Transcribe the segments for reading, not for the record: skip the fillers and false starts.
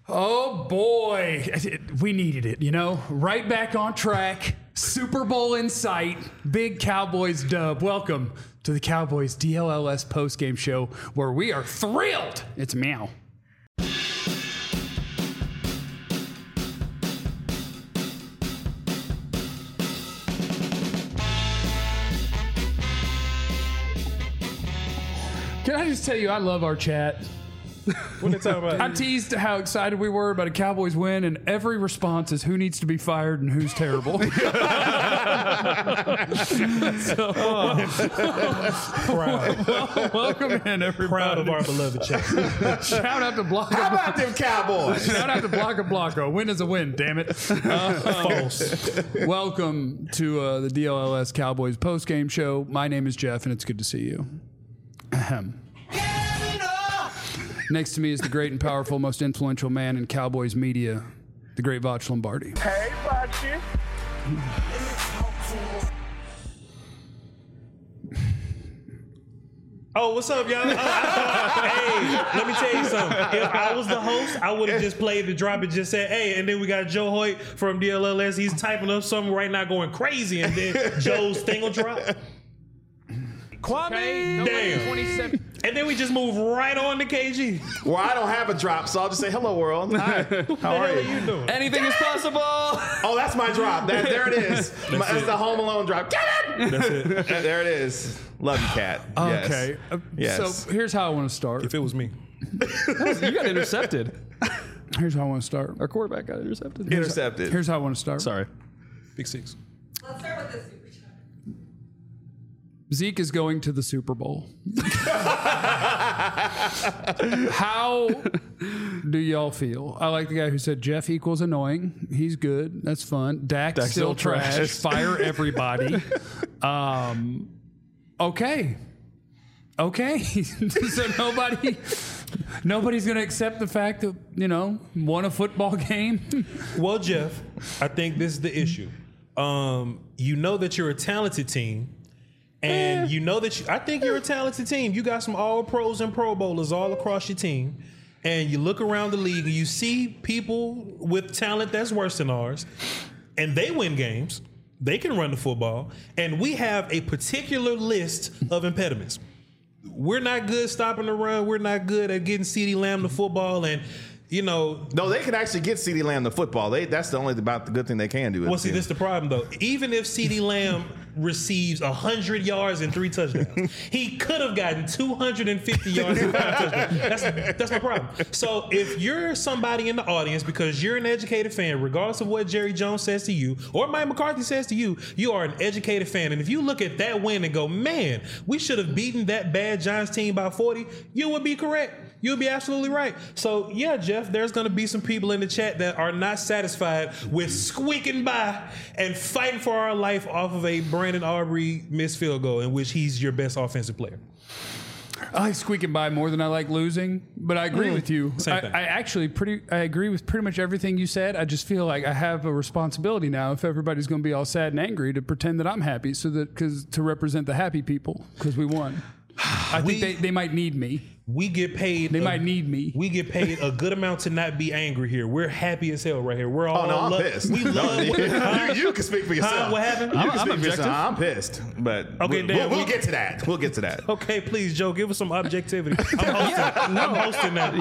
Oh boy, we needed it, right back on track. Super Bowl in sight, big Cowboys dub. Welcome to the Cowboys DLLS postgame show where we are thrilled. It's meow. Can I just tell you, I love our chat. What they talking about? I teased how excited we were about a Cowboys win, and every response is who needs to be fired and who's terrible. Proud. Welcome in, everybody. Proud of our beloved chat. Shout out to Blanca. How about them Cowboys? Shout out to Blanca Blanco. Win is a win, damn it. False. Welcome to the DLLS Cowboys postgame show. My name is Jeff, and it's good to see you. Ahem. Next to me is the great and powerful, most influential man in Cowboys media, the great Voch Lombardi. Hey, Voch. Oh, what's up, y'all? Hey, let me tell you something. If I was the host, I would have just played the drop and just said, hey, and then we got Joe Hoyt from DLLS. He's typing up something right now going crazy, and then Joe's thing will drop. Kwame, Damn. 27. And then we just move right on to KG. Well, I don't have a drop, so I'll just say hello, world. Hi. How are you? doing? Anything is possible. Oh, that's my drop. There it is. That's the Home Alone drop. Get it! That's it. There it is. Love you, Cat. Yes. Okay. Yes. So here's how I want to start. If it was me. You got intercepted. Here's how I want to start. Our quarterback got intercepted. Intercepted. Here's how I want to start. Sorry. Big six. Let's start with this super chat. Zeke is going to the Super Bowl. How do y'all feel? I like the guy who said Jeff equals annoying. He's good. That's fun. Dak's still trash. Fire everybody. Okay. So nobody's going to accept the fact that, won a football game. Well, Jeff, I think this is the issue. You know that you're a talented team. And you know that I think you're a talented team. You got some all pros and pro bowlers all across your team. And you look around the league and you see people with talent that's worse than ours. And they win games. They can run the football. And we have a particular list of impediments. We're not good stopping the run. We're not good at getting CeeDee Lamb the football. And, No, they can actually get CeeDee Lamb the football. That's the only about the good thing they can do. Well, see, this is the problem, though. Even if CeeDee Lamb receives 100 yards and 3 touchdowns, he could have gotten 250 yards and 5 touchdowns. That's my problem. So if you're somebody in the audience, because you're an educated fan, regardless of what Jerry Jones says to you or Mike McCarthy says to you, you are an educated fan. And if you look at that win and go, man, we should have beaten that bad Giants team by 40, you would be correct. You'll be absolutely right. So, yeah, Jeff, there's going to be some people in the chat that are not satisfied with squeaking by and fighting for our life off of a Brandon Aubrey missed field goal in which he's your best offensive player. I like squeaking by more than I like losing, but I agree with you. Same thing. I agree with pretty much everything you said. I just feel like I have a responsibility now, if everybody's going to be all sad and angry, to pretend that I'm happy, to represent the happy people, because we won. I think they might need me. We get paid. They might need me. We get paid a good amount to not be angry here. We're happy as hell right here. We're all. Oh no, I'm pissed. We love. You can speak for yourself. What happened? You can speak for yourself. I'm pissed, but Okay, we'll get to that. We'll get to that. Okay, please, Joe, give us some objectivity. I'm hosting that.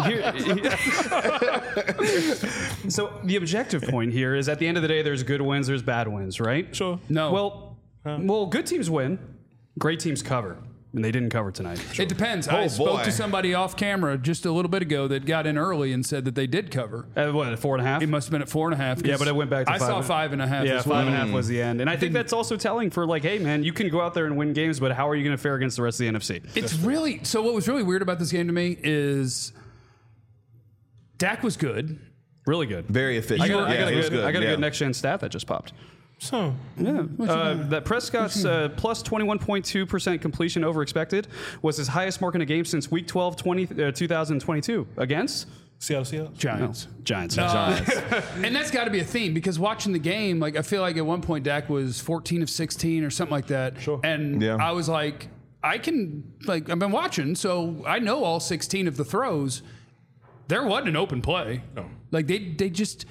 So the objective point here is at the end of the day, there's good wins, there's bad wins, right? Sure. No. Well, good teams win, great teams cover. And they didn't cover tonight. It depends. I spoke to somebody off camera just a little bit ago that got in early and said that they did cover. What, at 4.5? It must have been at 4.5. Yeah, but it went back to 5. I saw 5.5. Yeah, as well. 5.5 was the end. And I think that's also telling for hey, man, you can go out there and win games, but how are you going to fare against the rest of the NFC? It's really, so what was really weird about this game to me is Dak was good. Really good. Very efficient. I got a good next-gen stat that just popped. So, yeah. That Prescott's plus 21.2% completion over expected was his highest mark in a game since Week 12, 2022 against Seattle Giants. No. Giants. And that's got to be a theme, because watching the game, I feel like at one point Dak was 14 of 16 or something like that. Sure. And I was like, I've been watching, so I know all 16 of the throws. there wasn't an open play. No. Like they just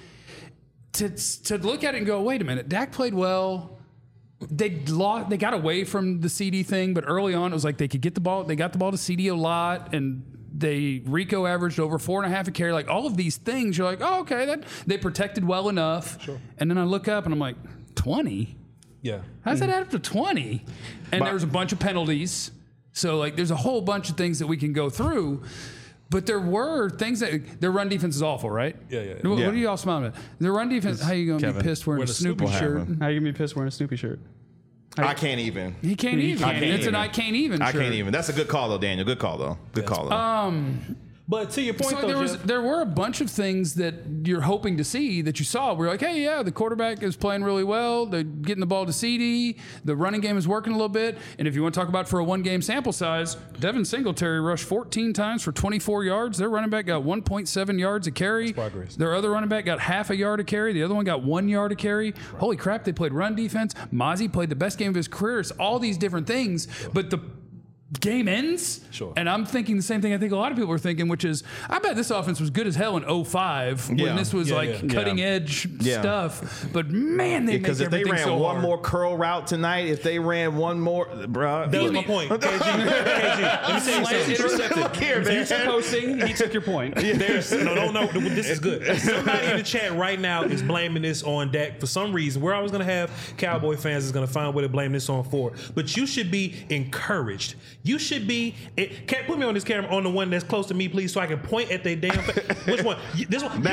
to look at it and go, wait a minute, Dak played well. They got away from the CD thing, but early on it was like they could get the ball. They got the ball to CD a lot, and Rico averaged over 4.5 a carry. Like all of these things, you're like, oh, okay, that they protected well enough. Sure. And then I look up and I'm like, 20? Yeah. How's that add up to 20? And there was a bunch of penalties. So like there's a whole bunch of things that we can go through. But there were things that their run defense is awful, right? Yeah. What are y'all smiling at? Their run defense. How you gonna be Kevin. pissed wearing a Snoopy What shirt? happened? How you gonna be pissed wearing a Snoopy shirt? I can't even. He can't even. I can't It's even. an I can't even. I shirt. can't even. That's a good call though, Daniel. Good call though. Good call though. But to your point, So though, there were a bunch of things that you're hoping to see that you saw. We're like, hey, yeah, the quarterback is playing really well. They're getting the ball to CD. The running game is working a little bit. And if you want to talk about for a one-game sample size, Devin Singletary rushed 14 times for 24 yards. Their running back got 1.7 yards a carry. That's progress. Their other running back got half a yard a carry. The other one got 1 yard a carry. Holy crap, they played run defense. Mozzie played the best game of his career. It's all these different things. But the game ends. Sure. And I'm thinking the same thing I think a lot of people are thinking, which is, I bet this offense was good as hell in 05 when Yeah. this was Yeah, like yeah. cutting edge Yeah. stuff. But man, they Because make if they everything ran so one hard. more curl route tonight, if they ran one more, bro. that was my point. KG, let me tell you something. Intercepted. Look here, man. Future posting, he took your point. There's no. This is good. Somebody in the chat right now is blaming this on Dak for some reason. Where I was gonna have Cowboy fans is gonna find a way to blame this on for. But you should be encouraged. You should be. Can't put me on this camera on the one that's close to me, please, so I can point at their damn face. Which one? This one.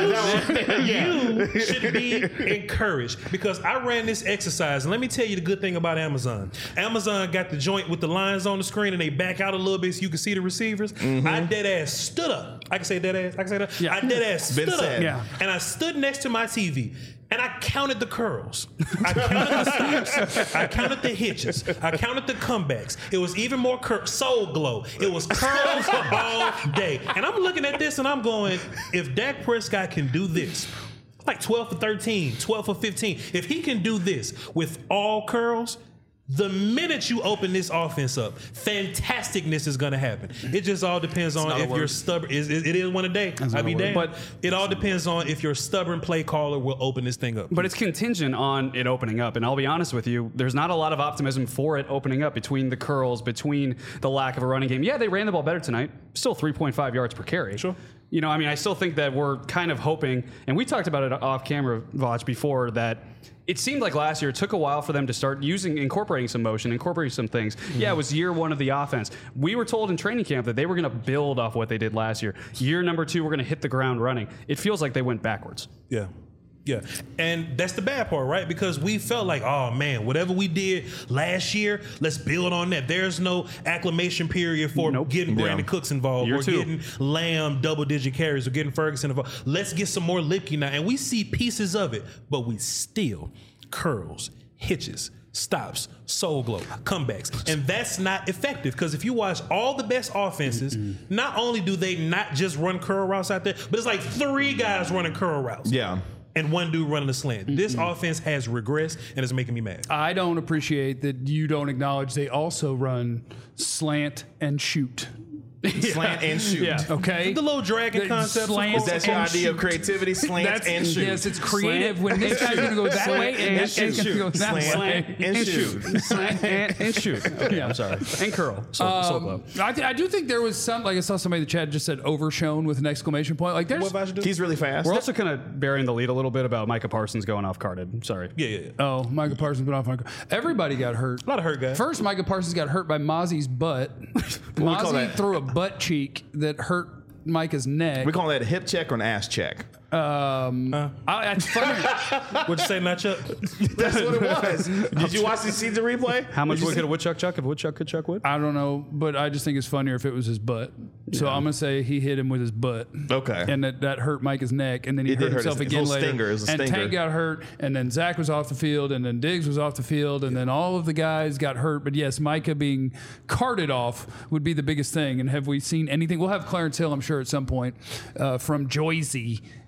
You should be encouraged because I ran this exercise, and let me tell you the good thing about Amazon. Amazon got the joint with the lines on the screen, and they back out a little bit so you can see the receivers. I dead ass stood up. I can say dead ass. I can say that. Yeah. I dead ass Been stood said. up, Yeah. and I stood next to my TV. And I counted the curls. I counted the stops. I counted the hitches. I counted the comebacks. It was even more soul glow. It was curls all day. And I'm looking at this and I'm going, if Dak Prescott can do this, like 12 for 13, 12 for 15, if he can do this with all curls, the minute you open this offense up, fantasticness is going to happen. It just all depends on if you're stubborn. It is one a day. I'll be damned. But it all depends on if your stubborn play caller will open this thing up. But it's contingent on it opening up. And I'll be honest with you, there's not a lot of optimism for it opening up between the curls, between the lack of a running game. Yeah, they ran the ball better tonight. Still 3.5 yards per carry. Sure. You know, I mean, I still think that we're kind of hoping, and we talked about it off camera, Voch, before, that it seemed like last year it took a while for them to start incorporating some motion, incorporating some things. Yeah, it was year one of the offense. We were told in training camp that they were going to build off what they did last year. Year number 2, we're going to hit the ground running. It feels like they went backwards. Yeah. Yeah. And that's the bad part, right? Because we felt like, oh man, whatever we did last year, let's build on that. There's no acclimation period for getting Brandon Cooks involved. We're getting Lamb double-digit carries. We're getting Ferguson involved. Let's get some more Lipke now. And we see pieces of it, but we still curls, hitches, stops, soul glow, comebacks. And that's not effective because if you watch all the best offenses, not only do they not just run curl routes out there, but it's like 3 guys running curl routes. Yeah. And 1 dude running a slant. This offense has regressed, and it's making me mad. I don't appreciate that you don't acknowledge they also run slant and shoot. Slant and shoot. Yeah. Okay. The little dragon concept. slant of course. That's your and idea shoot. of creativity, slant and shoot. Yes, it's creative. When this guy's going to go that way and that guy's going to go that Slant way. and shoot. Slant and shoot. Okay, I'm sorry. And curl. So glow. I do think there was some, like I saw somebody in the chat just said overshown with an exclamation point. Like there's, What Vash do? He's really fast. We're also kind of burying the lead a little bit about Micah Parsons going off carded. Sorry. Yeah. oh, Micah Parsons been off. Everybody got hurt. A lot of hurt guys. First, Micah Parsons got hurt by Mozzie's butt. we call Mozzie that? threw a butt cheek that hurt Micah's neck. We call that a hip check or an ass check. It's funny. What'd you say, Nutchuck? That's what it was. Did you watch the season replay? How much wood could a woodchuck chuck if a woodchuck could chuck wood? I don't know, but I just think it's funnier if it was his butt. So I'm gonna say he hit him with his butt. Okay. And that hurt Micah's neck, and then he It hurt did hurt himself his- again his little later. stinger. It was a and stinger. Tank got hurt, and then Zach was off the field, and then Diggs was off the field, and then all of the guys got hurt. But yes, Micah being carted off would be the biggest thing. And have we seen anything? We'll have Clarence Hill, I'm sure, at some point from Joyzy.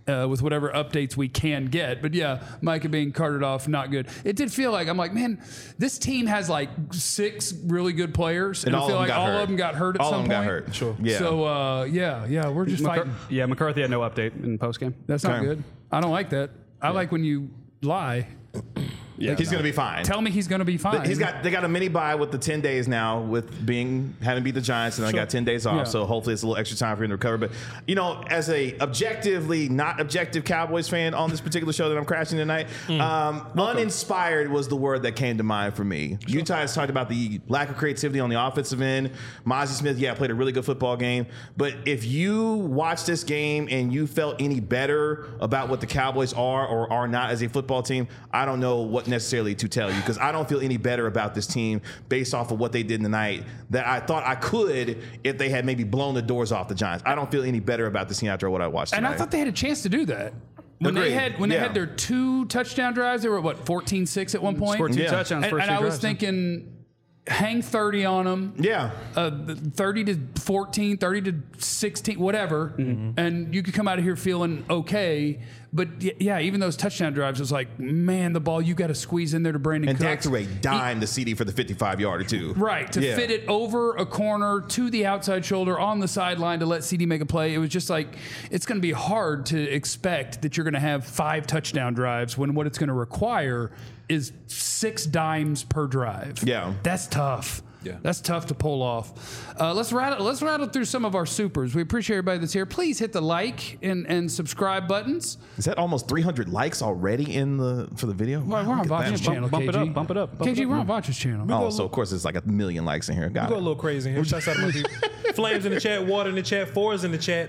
with whatever updates we can get. But yeah, Micah being carted off, not good. It did feel like, I'm like, man, this team has like 6 really good players, and I feel like all of them got hurt at some point. All of them got hurt. Sure. Yeah. So yeah, we're just fighting. Yeah, McCarthy had no update in postgame. That's not Okay. good. I don't like that. I like when you lie. Yeah, he's going to be fine. Tell me he's going to be fine. They got a mini bye with the 10 days now with having beat the Giants, and they got 10 days off. Yeah. So hopefully it's a little extra time for him to recover. But as a objectively not objective Cowboys fan on this particular show that I'm crashing tonight, uninspired was the word that came to mind for me. Sure. Utah has talked about the lack of creativity on the offensive end. Mozzie Smith, played a really good football game. But if you watch this game and you felt any better about what the Cowboys are or are not as a football team, I don't know what necessarily to tell you, because I don't feel any better about this team based off of what they did tonight that I thought I could if they had maybe blown the doors off the Giants. I don't feel any better about this team after what I watched tonight. And I thought they had a chance to do that. When Agreed. they had their 2 touchdown drives, they were 14-6 at one point. Scored 2 touchdowns and first I 3 was drives. thinking, hang 30 on them. Yeah. 30 to 14, 30 to 16, whatever, and you could come out of here feeling okay. But yeah, even those touchdown drives, it was like, man, the ball you got to squeeze in there to Brandon And Cooks. Dak threw a dime to CD for the 55-yarder too. Right, to fit it over a corner to the outside shoulder on the sideline to let CD make a play. It was just like, it's going to be hard to expect that you're going to have 5 touchdown drives when what it's going to require is 6 dimes per drive. Yeah. That's tough. Yeah. That's tough to pull off. Let's rattle through some of our supers. We appreciate everybody that's here. Please hit the like and subscribe buttons. Is that almost 300 likes already for the video? We're on Vacha's channel, Bump it KG. up, bump it up. KG, we're on Vacha's channel. Oh, so of course it's like 1 million likes in here. Got Go a it. little crazy in here. Shouts out to my people. Flames in the chat, water in the chat, fours in the chat,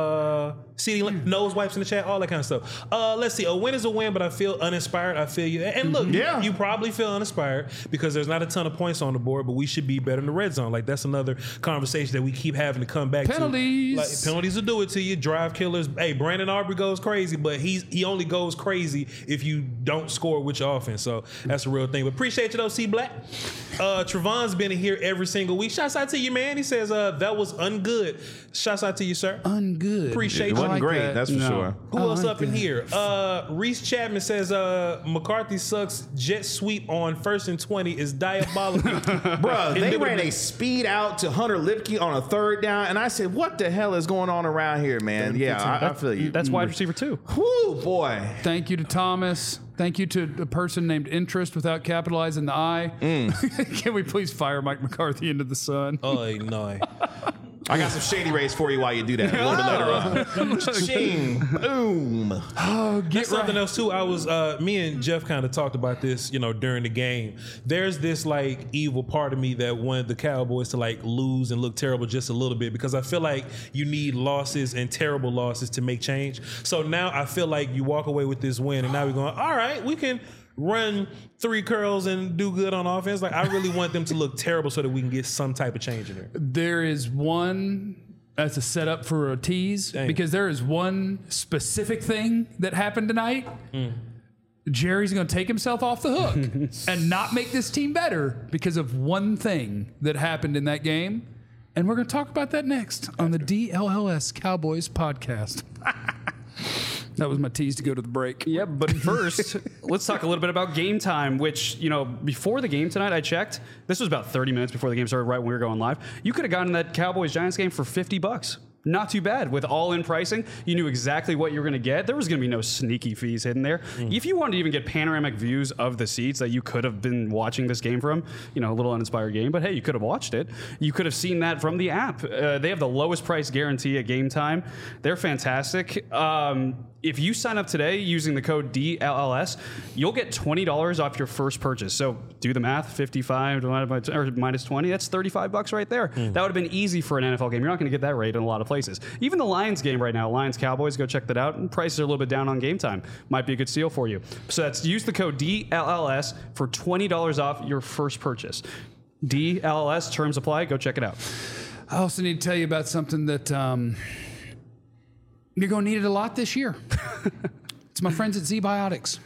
CD nose wipes in the chat, all that kind of stuff. Let's see. A win is a win, but I feel uninspired. I feel you. And look, you probably feel uninspired because there's not a ton of points on the board, but we should be better in the red zone. Like, that's another conversation that we keep having to come back Penalties. to. Like, penalties will do it to you. Drive killers. Hey, Brandon Aubrey goes crazy, but he only goes crazy if you don't score with your offense. So that's a real thing. But appreciate you though, C Black. Trevon's been in here every single week. Shouts out to you, man. He says that was ungood. Shouts out to you, sir. Ungood. Appreciate It you. wasn't like great, that. that's for No. sure. Who I else like up in that. here? Reese Chapman says McCarthy sucks. Jet sweep on 1st and 20 is diabolical. Bruh, they they ran would've a speed out to Hunter Lipke on a 3rd down, and I said, what the hell is going on around here, man? Yeah, I feel you. That's wide receiver 2. Whoo, boy. Thank you to Thomas. Thank you to a person named Interest without capitalizing the I. Can we please fire Mike McCarthy into the sun? Oh, no. I got some shady rays for you while you do that. A little bit later on. Ching. Boom. That's something else too. I was me and Jeff kind of talked about this, during the game. There's this like evil part of me that wanted the Cowboys to like lose and look terrible just a little bit, because I feel like you need losses and terrible losses to make change. So now I feel like you walk away with this win, and now we're going, all right, we can run 3 curls and do good on offense. Like, I really want them to look terrible so that we can get some type of change in there. There is one that's a setup for a tease, because there is one specific thing that happened tonight. Jerry's going to take himself off the hook and not make this team better because of one thing that happened in that game. And we're going to talk about that next on the DLLS Cowboys podcast. That was my tease to go to the break. Yeah, but first, let's talk a little bit about game time, which, before the game tonight, I checked. This was about 30 minutes before the game started, right when we were going live. You could have gotten that Cowboys-Giants game for $50. Not too bad. With all-in pricing, you knew exactly what you were going to get. There was going to be no sneaky fees hidden there. If you wanted to even get panoramic views of the seats that you could have been watching this game from, a little uninspired game, but hey, you could have watched it. You could have seen that from the app. They have the lowest price guarantee at game time. They're fantastic. If you sign up today using the code DLLS, you'll get $20 off your first purchase. So do the math, 55 divided by or minus 20, that's $35 right there. That would have been easy for an NFL game. You're not going to get that rate in a lot of places. Even the Lions game right now, Lions-Cowboys, go check that out. And prices are a little bit down on game time. Might be a good steal for you. So use the code DLLS for $20 off your first purchase. DLLS, terms apply. Go check it out. I also need to tell you about something that you're going to need it a lot this year. It's my friends at Z-Biotics.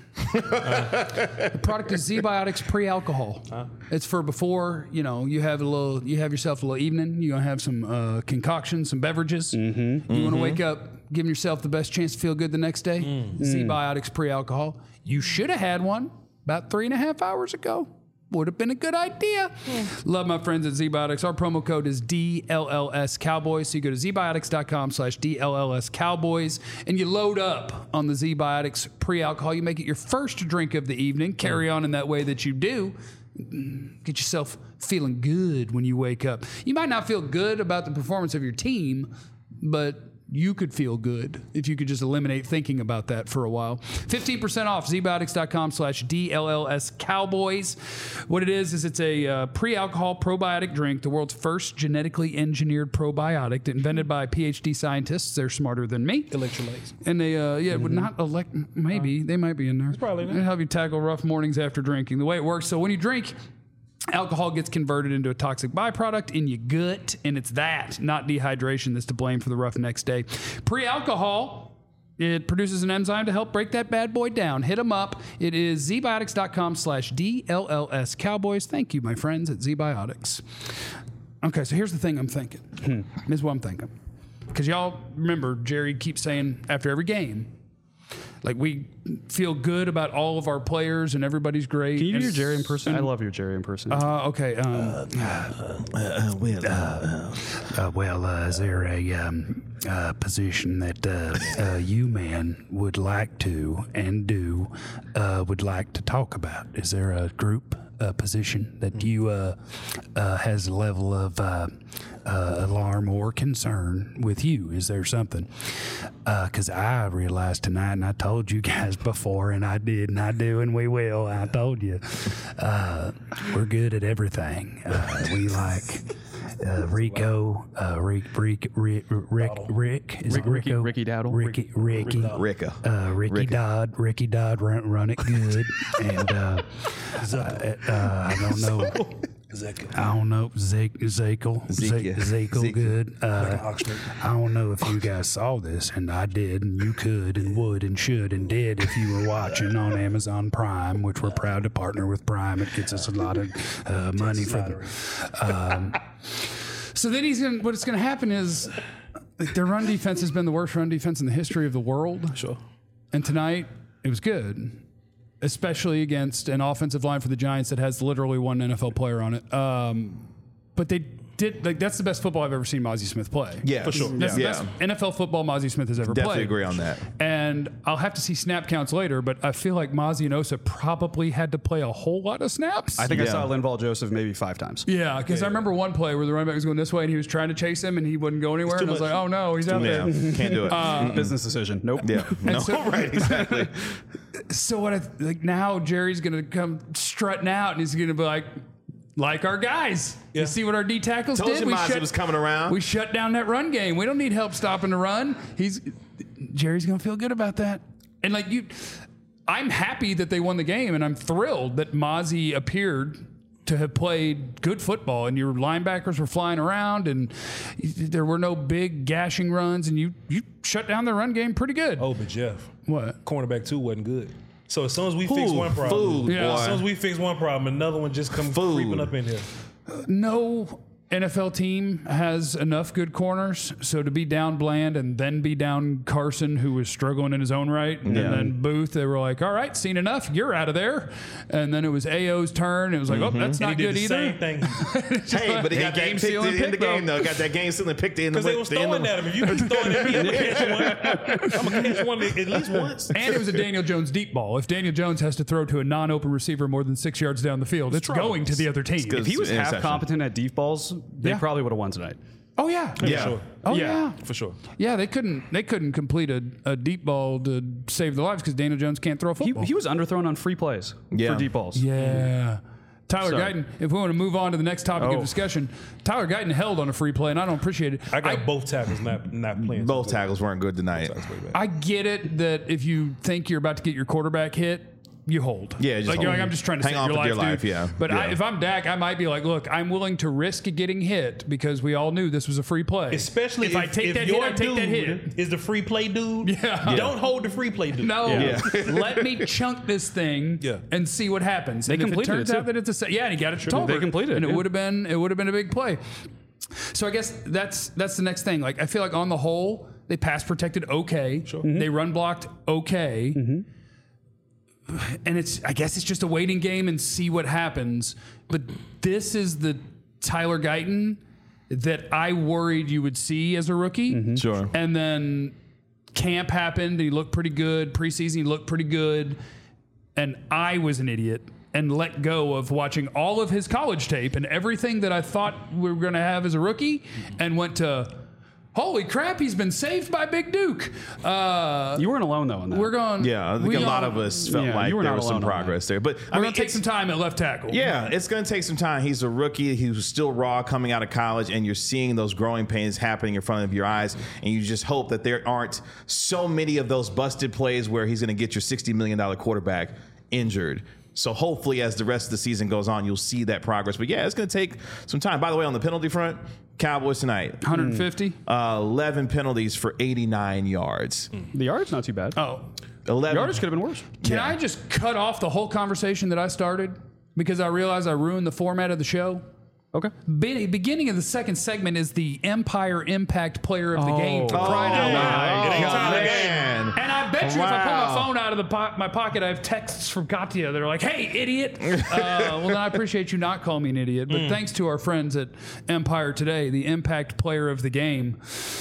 The product is Z-Biotics pre-alcohol. It's for before, you have yourself a little evening. You're going to have some concoction, some beverages. You want to wake up giving yourself the best chance to feel good the next day? Z-Biotics pre-alcohol. You should have had one about 3.5 hours ago. Would have been a good idea. Love my friends at Z-Biotics. Our promo code is DLLS Cowboys. So you go to zbiotics.com/DLLS Cowboys and you load up on the Z-Biotics pre-alcohol. You make it your first drink of the evening. Carry on in that way that you do. Get yourself feeling good when you wake up. You might not feel good about the performance of your team, but you could feel good if you could just eliminate thinking about that for a while. 15% off, zbiotics.com/DLLS Cowboys. What it is it's a pre-alcohol probiotic drink, the world's first genetically engineered probiotic invented by PhD scientists. They're smarter than me. Electrolytes. And they, would not maybe, they might be in there. probably in there. They help you tackle rough mornings after drinking. The way it works, so when you drink, alcohol gets converted into a toxic byproduct in your gut, and it's that, not dehydration, that's to blame for the rough next day. Pre-alcohol, it produces an enzyme to help break that bad boy down. Hit them up. It is zbiotics.com/DLLS Cowboys. Thank you, my friends at ZBiotics. Okay, so here's the thing I'm thinking. Here's what I'm thinking. Because y'all remember, Jerry keeps saying after every game, like, we feel good about all of our players and everybody's great. Can you do your Jerry impersonation? I love your Jerry impersonation. Okay. Is there a position that you men would like to and do would like to talk about? Is there a group position that you has a level of alarm or concern with you? Is there something? Because I realized tonight, and I told you guys before, and I did, and I do, and we will. I told you, we're good at everything. We like Rico, Rick, is it Rico? Ricky Dowdle. Ricky Ricka. Ricky Dodd run it good, and I don't know. I don't know. Zekel good. I don't know if you guys saw this, and I did, and you could, and would, and should, and did if you were watching on Amazon Prime, which we're proud to partner with Prime. It gets us a lot of money for them. So then what's going to happen is, like, their run defense has been the worst run defense in the history of the world. Sure. And tonight, it was good, especially against an offensive line for the Giants that has literally one NFL player on it. But they did, like, that's the best football I've ever seen Mozzie Smith play. Yeah, For sure. That's the best NFL football Mozzie Smith has ever Definitely played. agree on that. And I'll have to see snap counts later, but I feel like Mozzie and Osa probably had to play a whole lot of snaps. I think I Yeah. saw Linval Joseph maybe 5 times. Yeah, because I remember one play where the running back was going this way and he was trying to chase him and he wouldn't go anywhere. too And I was much. like, oh no, he's out Yeah, there. can't do it. Business decision. Nope. Yeah, no, so- right, exactly. So what? Now Jerry's going to come strutting out and he's going to be like our guys. Yeah. You see what our D tackles Told did? you Mozzie was coming around. We shut down that run game. We don't need help stopping the run. Jerry's going to feel good about that. And I'm happy that they won the game, and I'm thrilled that Mozzie appeared to have played good football, and your linebackers were flying around, and there were no big gashing runs, and you shut down the run game pretty good. Oh, but Jeff, What? cornerback 2 wasn't good. So as soon as we fix one problem, Food, Yeah. as soon as boy. we fix one problem, another one just comes creeping up in here. No NFL team has enough good corners, so to be down Bland and then be down Carson, who was struggling in his own right, and then Booth, they were like, all right, seen enough, you're out of there. And then it was AO's turn. It was like, oh, that's And not he good did the either. same thing. Hey, but he got that game pick sealing in the pick, game, though. though. Got that game sealing pick in the Because they was throwing at him. If you keep throwing at me, I'm going to catch one. I'm going to catch one at least once. And it was a Daniel Jones deep ball. If Daniel Jones has to throw to a non-open receiver more than 6 yards down the field, it's trouble. going to the other team. good. If he was half Interception. competent at deep balls, they Yeah. probably would have won tonight. Oh yeah, Yeah. Sure. Oh Yeah. yeah. For sure. Yeah, they couldn't complete a deep ball to save their lives because Daniel Jones can't throw a football. He was underthrown on free plays Yeah. for deep balls. Yeah. Tyler Sorry. Guyton, if we want to move on to the next topic of Oh. discussion, Tyler Guyton held on a free play, and I don't appreciate it. I got both tackles not playing. Both tackles weren't good tonight. I get it that if you think you're about to get your quarterback hit, you hold. Yeah, just like you're hold. like, I'm just trying to Hang save on your with life, your life, dude. yeah. But Yeah. if I'm Dak, I might be like, look, I'm willing to risk getting hit because we all knew this was a free play. Especially if I take that hit, your I take that hit. dude is the free play dude. Yeah. Don't hold the free play dude. No, Yeah. let me chunk this thing Yeah. and see what happens. They and if it completed turns it, out too. that it's yeah, and he got it to Tolbert. They completed it, and it yeah. would have been a big play. So I guess that's the next thing. Like I feel like on the whole, They pass protected okay. Sure. They run blocked okay. And I guess it's just a waiting game and see what happens. But this is the Tyler Guyton that I worried you would see as a rookie. Sure. And then camp happened. And he looked pretty good. Preseason, he looked pretty good. And I was an idiot and let go of watching all of his college tape and everything that I thought we were going to have as a rookie and went to, holy crap, he's been saved by Big Duke. You weren't alone, though, in that. We're going. Yeah, I think a lot of us felt Yeah, like you were there not was some alone on progress there. But We're going to take some time at left tackle. Yeah, it's going to take some time. He's a rookie. He was still raw coming out of college, and you're seeing those growing pains happening in front of your eyes. And you just hope that there aren't so many of those busted plays where he's going to get your $60 million quarterback injured. So hopefully, as the rest of the season goes on, you'll see that progress. But yeah, it's going to take some time. By the way, on the penalty front, Cowboys tonight, 150. 11 penalties for 89 yards. The yard's not too bad. Oh, 11. Yardage could have been worse. can I just cut off the whole conversation that I started because I realized I ruined the format of the show? Okay. Beginning of the second segment is the Empire Impact Player of the Game. For crying out loud. It ain't time to man. And I bet you if I pull my Wow. phone out of my pocket, I have texts from Katya that are like, hey, idiot. Well, then I appreciate you not calling me an idiot. But thanks to our friends at Empire Today, the Impact Player of the Game.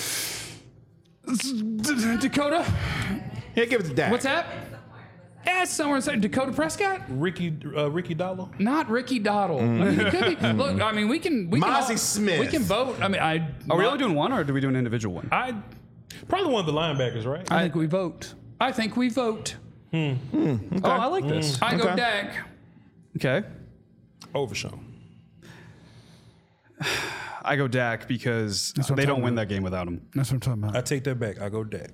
Dakota? Yeah, give it to Dak. What's that? Yeah, it's somewhere inside. Dakota Prescott? Ricky Dollar. Not Ricky Doddle. I mean, it could be. Look, I mean, we can Mozzie all- Smith. We can vote. I mean, Are we only doing one, or do we do an individual one? I probably one of the linebackers, right? I think we vote. I think we vote. Oh, I like this. I go Okay. Dak. Okay. Overshown. I go Dak because what I'm they don't talking win about. that game without him. That's what I'm talking about. I take that back. I go Dak.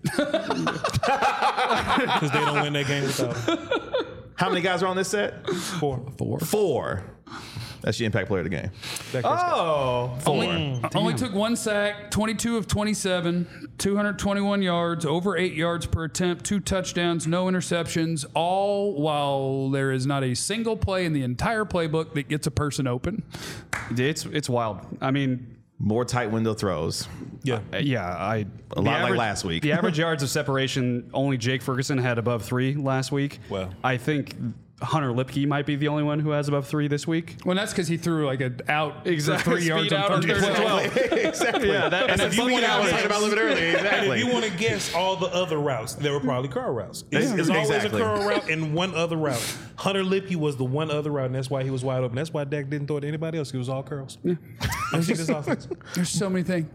Because they don't win that game without him. How many guys are on this set? 4. 4. That's your impact player of the game. Dak Prescott. Only took 1 sack, 22 of 27, 221 yards, over 8 yards per attempt, 2 touchdowns, no interceptions, all while there is not a single play in the entire playbook that gets a person open. It's wild. I mean, More tight window throws. Yeah. A lot like last week. The average yards of separation, only Jake Ferguson had above 3 last week. Wow. I think Hunter Lipke might be the only one who has above 3 this week. Well, that's because he threw like an out Exactly. for 3 yards Speed out on third and 12. Exactly. Yeah, that- That's and a if you funny want I was to- talking about a little bit earlier. And Exactly. if you want to guess all the other routes, there were probably curl routes. It's always Exactly. a curl route and one other route. Hunter Lipke was the one other route, and that's why he was wide open. That's why Dak didn't throw it to anybody else. He was all curls. Yeah. I'm seeing this offense. There's so many things.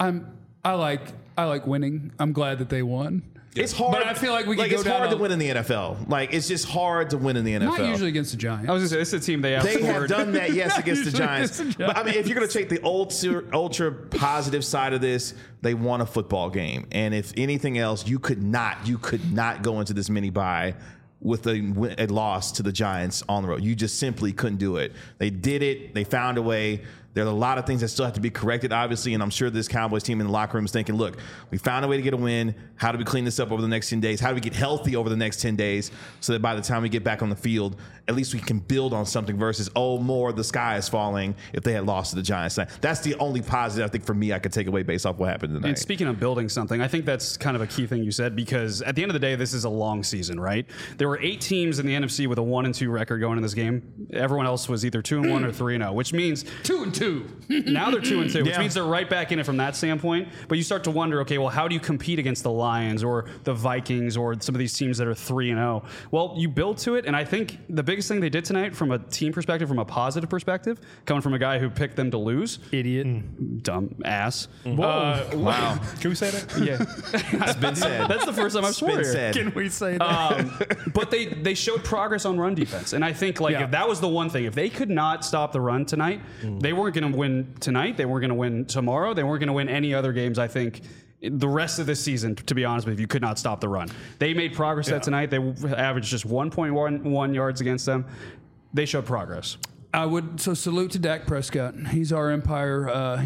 I like winning. I'm glad that they won. It's hard. But I feel like we could go it's down hard to a- win in the NFL. Like, it's just hard to win in the NFL. Not usually against the Giants. I was going to say, this is a team they They have outscored. done that, yes, against the usually Giants. against the But I mean, if you're going to take the ultra positive side of this, they won a football game. And if anything else, you could not go into this mini bye with a loss to the Giants on the road. You just simply couldn't do it. They did it. They found a way. There are a lot of things that still have to be corrected, obviously, and I'm sure this Cowboys team in the locker room is thinking, look, we found a way to get a win. How do we clean this up over the next 10 days? How do we get healthy over the next 10 days so that by the time we get back on the field, at least we can build on something versus, the sky is falling if they had lost to the Giants. That's the only positive, I think, for me I could take away based off what happened tonight. And speaking of building something, I think that's kind of a key thing you said, because at the end of the day, this is a long season, right? There were 8 teams in the NFC with a 1-2 record going in this game. Everyone else was either 2-1 or 3-0, which means 2-2. now they're 2-2, which Yeah. means they're right back in it from that standpoint. But you start to wonder, okay, well, how do you compete against the Lions or the Vikings or some of these teams that are 3-0? Well, you build to it, and I think the biggest thing they did tonight from a team perspective, from a positive perspective, coming from a guy who picked them to lose, Idiot. dumb ass. Wow. Can we say that? Yeah, It's been said. that's the first time I've It's sworn been here. said. Can we say that? But they showed progress on run defense, and I think Yeah. if that was the one thing, if they could not stop the run tonight, they weren't going to win tonight. They weren't going to win tomorrow. They weren't going to win any other games. I think the rest of this season, to be honest with you, could not stop the run. They made progress that tonight. They averaged just 1.11 yards against them. They showed progress. I would salute to Dak Prescott. He's our Empire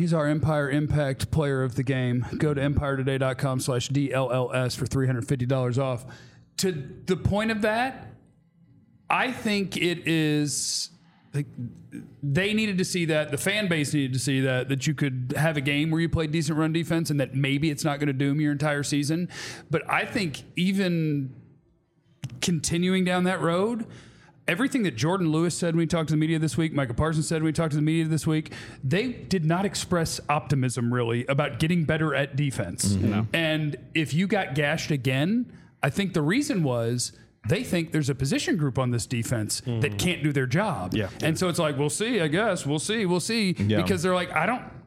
Impact Player of the Game. Go to EmpireToday.com/DLLS for $350 off. To the point of that, I think it is they needed to see that. The fan base needed to see that you could have a game where you played decent run defense and that maybe it's not going to doom your entire season. But I think even continuing down that road, everything that Jordan Lewis said when he talked to the media this week, Micah Parsons said when he talked to the media this week, they did not express optimism really about getting better at defense. No. And if you got gashed again, I think the reason was they think there's a position group on this defense that can't do their job. Yeah. And so it's like, we'll see, I guess. We'll see. Yeah. Because they're like,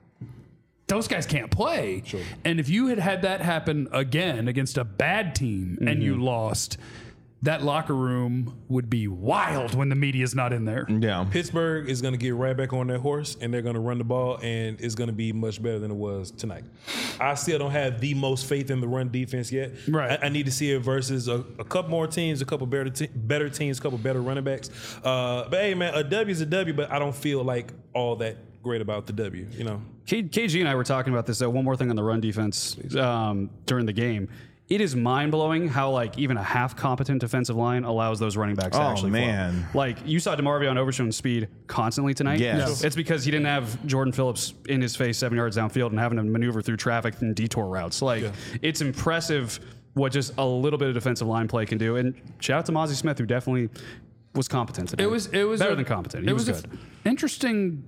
those guys can't play. Sure. And if you had that happen again against a bad team and you lost, that locker room would be wild when the media's not in there. Yeah. Pittsburgh is going to get right back on their horse, and they're going to run the ball, and it's going to be much better than it was tonight. I still don't have the most faith in the run defense yet. Right. I need to see it versus a couple more teams, a couple better teams, a couple better running backs. But hey, man, a W is a W, but I don't feel like all that great about the W, you know. KG and I were talking about this. One more thing on the run defense during the game. It is mind-blowing how, like, even a half-competent defensive line allows those running backs to actually man. flow. Like, you saw DeMarvion Overshown speed constantly tonight. Yes. It's because he didn't have Jordan Phillips in his face 7 yards downfield and having to maneuver through traffic and detour routes. Like, it's impressive what just a little bit of defensive line play can do. And shout out to Mozzie Smith, who definitely was competent today. It was better than competent. He was good. An interesting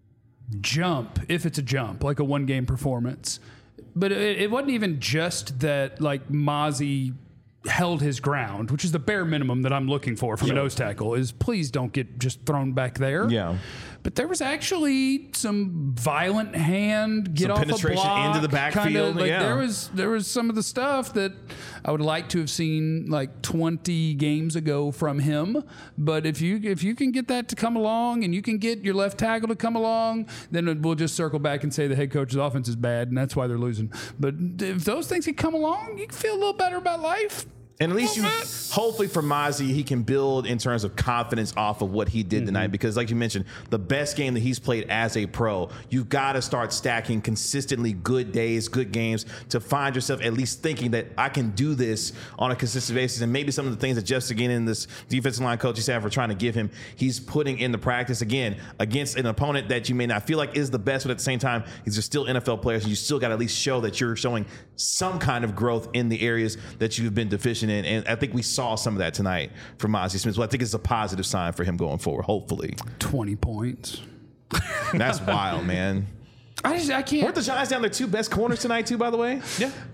jump, if it's a jump, like a one-game performance. But it wasn't even just that, like, Mozzie held his ground, which is the bare minimum that I'm looking for from a nose tackle, is please don't get just thrown back there. Yeah. But there was actually some violent hand, get Some off a penetration block, into the backfield, Like yeah. there was some of the stuff that I would like to have seen like 20 games ago from him. But if you can get that to come along and you can get your left tackle to come along, then we'll just circle back and say the head coach's offense is bad and that's why they're losing. But if those things can come along, you can feel a little better about life. And at least hopefully for Mozzie, he can build in terms of confidence off of what he did tonight. Because like you mentioned, the best game that he's played as a pro, you've got to start stacking consistently good days, good games to find yourself at least thinking that I can do this on a consistent basis. And maybe some of the things that Jeff Seguin and this defensive line coaching staff are trying to give him, he's putting in the practice again against an opponent that you may not feel like is the best, but at the same time, these are still NFL players. And you still got to at least show that you're showing some kind of growth in the areas that you've been deficient in. And I think we saw some of that tonight from Mozzie Smith. So I think it's a positive sign for him going forward, hopefully. 20 points. That's wild, man. I can't. Weren't the Giants down their two best corners tonight, too, by the way?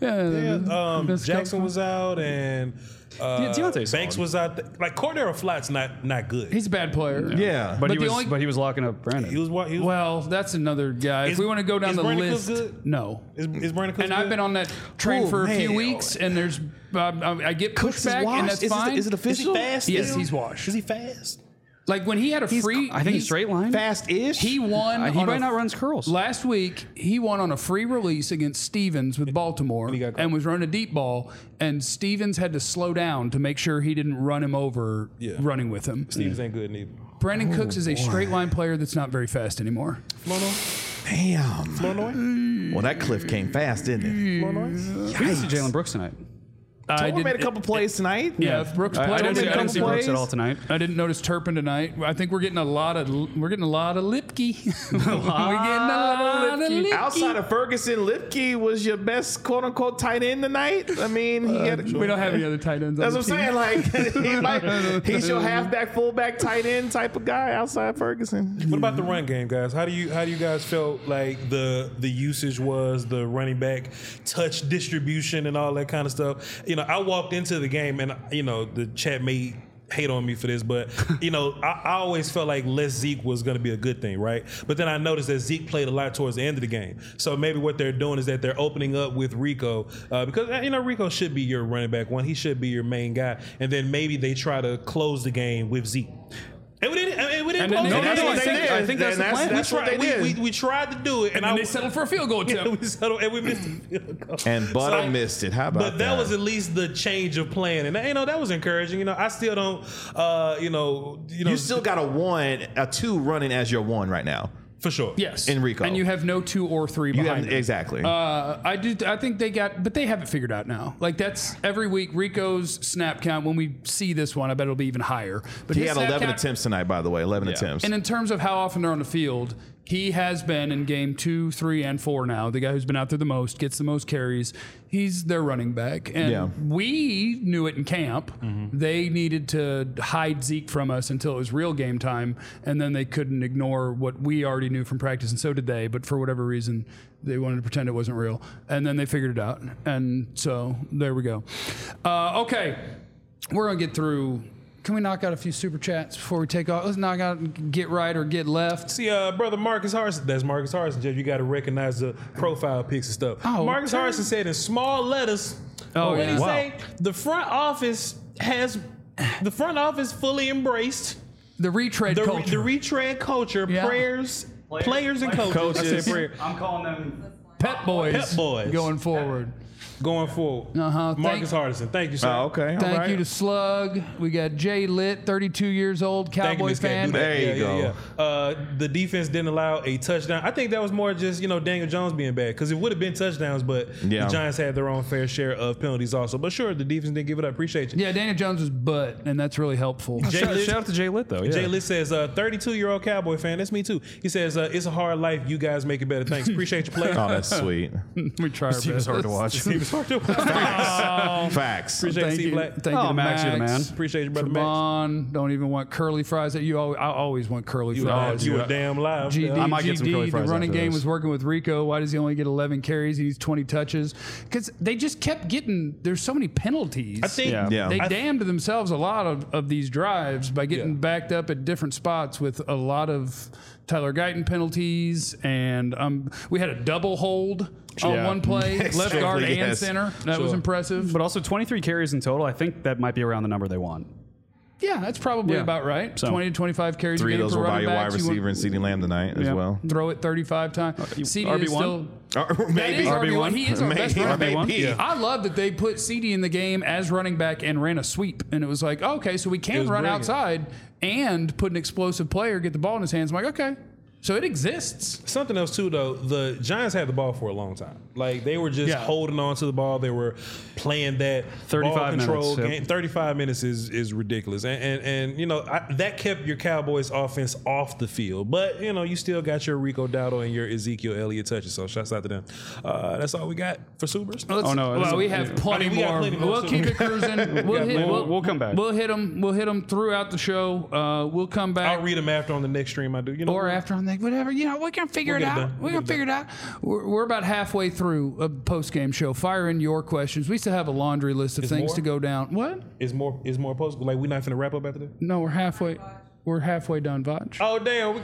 Yeah. Jackson was out, and Deontay's Banks solid. was out. Like, Cordero Flatt's not good. He's a bad player. Yeah. But the he was locking up Brandon. He was Well, that's another guy. If Is- we want to go down is the Brandon list, Cooks good? no. Is Brandon Cooks And I've good? been on that train Oh, for a few man. weeks, and there's I get Cooks is pushback, washed? and that's Is it- fine. is it official? Is he fast? Yes, still? he's washed. Is he fast? Like when he had a free, I think he's straight line. Fast-ish? He won. He on might a- not runs curls. Last week, he won on a free release against Stevens with Baltimore he got caught. and was running a deep ball, and Stevens had to slow down to make sure he didn't run him over running with him. Stevens ain't good neither. Brandon Cooks is a straight line player that's not very fast anymore. Damn. Flournoy? Well, that cliff came fast, didn't it? Flournoy? We didn't see Jalen Brooks tonight. Tomer made a couple plays tonight. Yeah, if Brooks played. I didn't see Brooks plays. at all tonight. I didn't notice Turpin tonight. I think we're getting a lot of Lipke. we're getting a lot of Lipke. Outside of Ferguson, Lipke was your best quote-unquote tight end tonight. I mean, We don't have any other tight ends. that's on what I'm the team. saying. Like, he's your halfback, fullback, tight end type of guy outside Ferguson. What about the run game, guys? How do you guys felt like the usage was, the running back touch distribution and all that kind of stuff? You know, I walked into the game and the chat may hate on me for this, but I always felt like less Zeke was going to be a good thing, right? But then I noticed that Zeke played a lot towards the end of the game. So maybe what they're doing is that they're opening up with Rico because Rico should be your running back one. He should be your main guy, and then maybe they try to close the game with Zeke. And we didn't And then close they the did. game. I think that's the plan. That's what they did. We tried to do it, And then they settled for a field goal attempt. we settled, and we missed the field goal. And Butter missed it. How about But that was at least the change of plan, and that was encouraging. I still don't, You still got a 2 running as your 1 right now. For sure. Yes. In Rico. And you have no 2 or 3 behind them. Exactly. I think but they have it figured out now. Like that's every week. Rico's snap count, when we see this one, I bet it'll be even higher. But he his had snap 11 count- attempts tonight, by the way. 11 attempts. And in terms of how often they're on the field, he has been in game 2, 3, and 4 now. The guy who's been out there the most, gets the most carries. He's their running back. And we knew it in camp. They needed to hide Zeke from us until it was real game time. And then they couldn't ignore what we already knew from practice. And so did they. But for whatever reason, they wanted to pretend it wasn't real. And then they figured it out. And so there we go. Okay. We're going to get through. Can we knock out a few super chats before we take off? Let's knock out get right or get left. See, brother Marcus Harrison, that's Marcus Harrison, Jeff. You got to recognize the profile pics and stuff. Oh, Marcus okay. Harrison said in small letters, Oh, what did yeah. he Wow. say? The front office fully embraced The retread culture. the retread culture, Yeah. players and coaches. I said prayer. I'm calling them. Pep boys. Pep boys. Going forward. Going forward. Uh-huh. Marcus Harrison. Thank you, sir. Oh, okay. All Thank right. you to Slug. We got Jay Litt, 32 years old, Thank you, Cowboy Miss Cat. fan. Do that. There you go. The defense didn't allow a touchdown. I think that was more just, Daniel Jones being bad because it would have been touchdowns, but Yeah. the Giants had their own fair share of penalties also. But sure, the defense didn't give it up. Appreciate you. Yeah, Daniel Jones was butt, and that's really helpful. Jay Shout, Litt- shout out to Jay Litt though. Yeah. Jay Litt says, 32-year-old Cowboy fan. That's me too. He says, it's a hard life. You guys make it better. Thanks. Appreciate your play. Oh, that's sweet. We try our best. It was hard to watch. He was hard to watch. Facts. Appreciate Thank C you. Black. Thank you Oh, to Max, you're the man. Appreciate you, brother Max. Trevon, don't even want curly fries. I always want curly fries. You were damn live. GD, I might get some curly the fries running after game this. was working with Rico. Why does he only get 11 carries? He needs 20 touches. Because they just kept getting, there's so many penalties. I think Yeah. They I- damned themselves a lot of these drives by getting backed up at different spots with a lot of Tyler Guyton penalties. And we had a double hold on Yeah. one play, left guard and Yes. center. That was Sure. impressive. But also 23 carries in total. I think that might be around the number they want. Yeah, that's probably Yeah. about right. So- 20 to 25 carries 3 a of game those for were by running your wide backs. You want- receiver and CeeDee Lamb tonight as Yeah. well. Throw it 35 times. CD is RB1? still. Or That maybe. is RB1. He is our best Maybe. running back. Maybe. I love that they put CD in the game as running back and ran a sweep. And it was like, okay, so we can was run brilliant. outside and put an explosive player, get the ball in his hands. I'm like, okay. So it exists. Something else too, though. The Giants had the ball for a long time. Like they were just Yeah. holding on to the ball. They were playing that 35 ball control minutes, yep. game. 35 minutes is ridiculous, and that kept your Cowboys offense off the field. But you still got your Rico Dowdle and your Ezekiel Elliott touches. So shouts out to them. That's all we got for supers. Oh, no, Well, this- we have plenty I mean, we got more. plenty more We'll too. keep it cruising. We'll come back. We'll hit them. We'll hit them throughout the show. We'll come back. I'll read them after on the next stream. I do. Or after on that, whatever. We're gonna figure We'll it get it out. done. We're gonna figure it out. We're about halfway through a post game show. Fire in your questions. We still have a laundry list of things more? to go down. What? Is more post like we're not finna wrap up after this? No, we're halfway. We're halfway done, Vaj. Oh damn.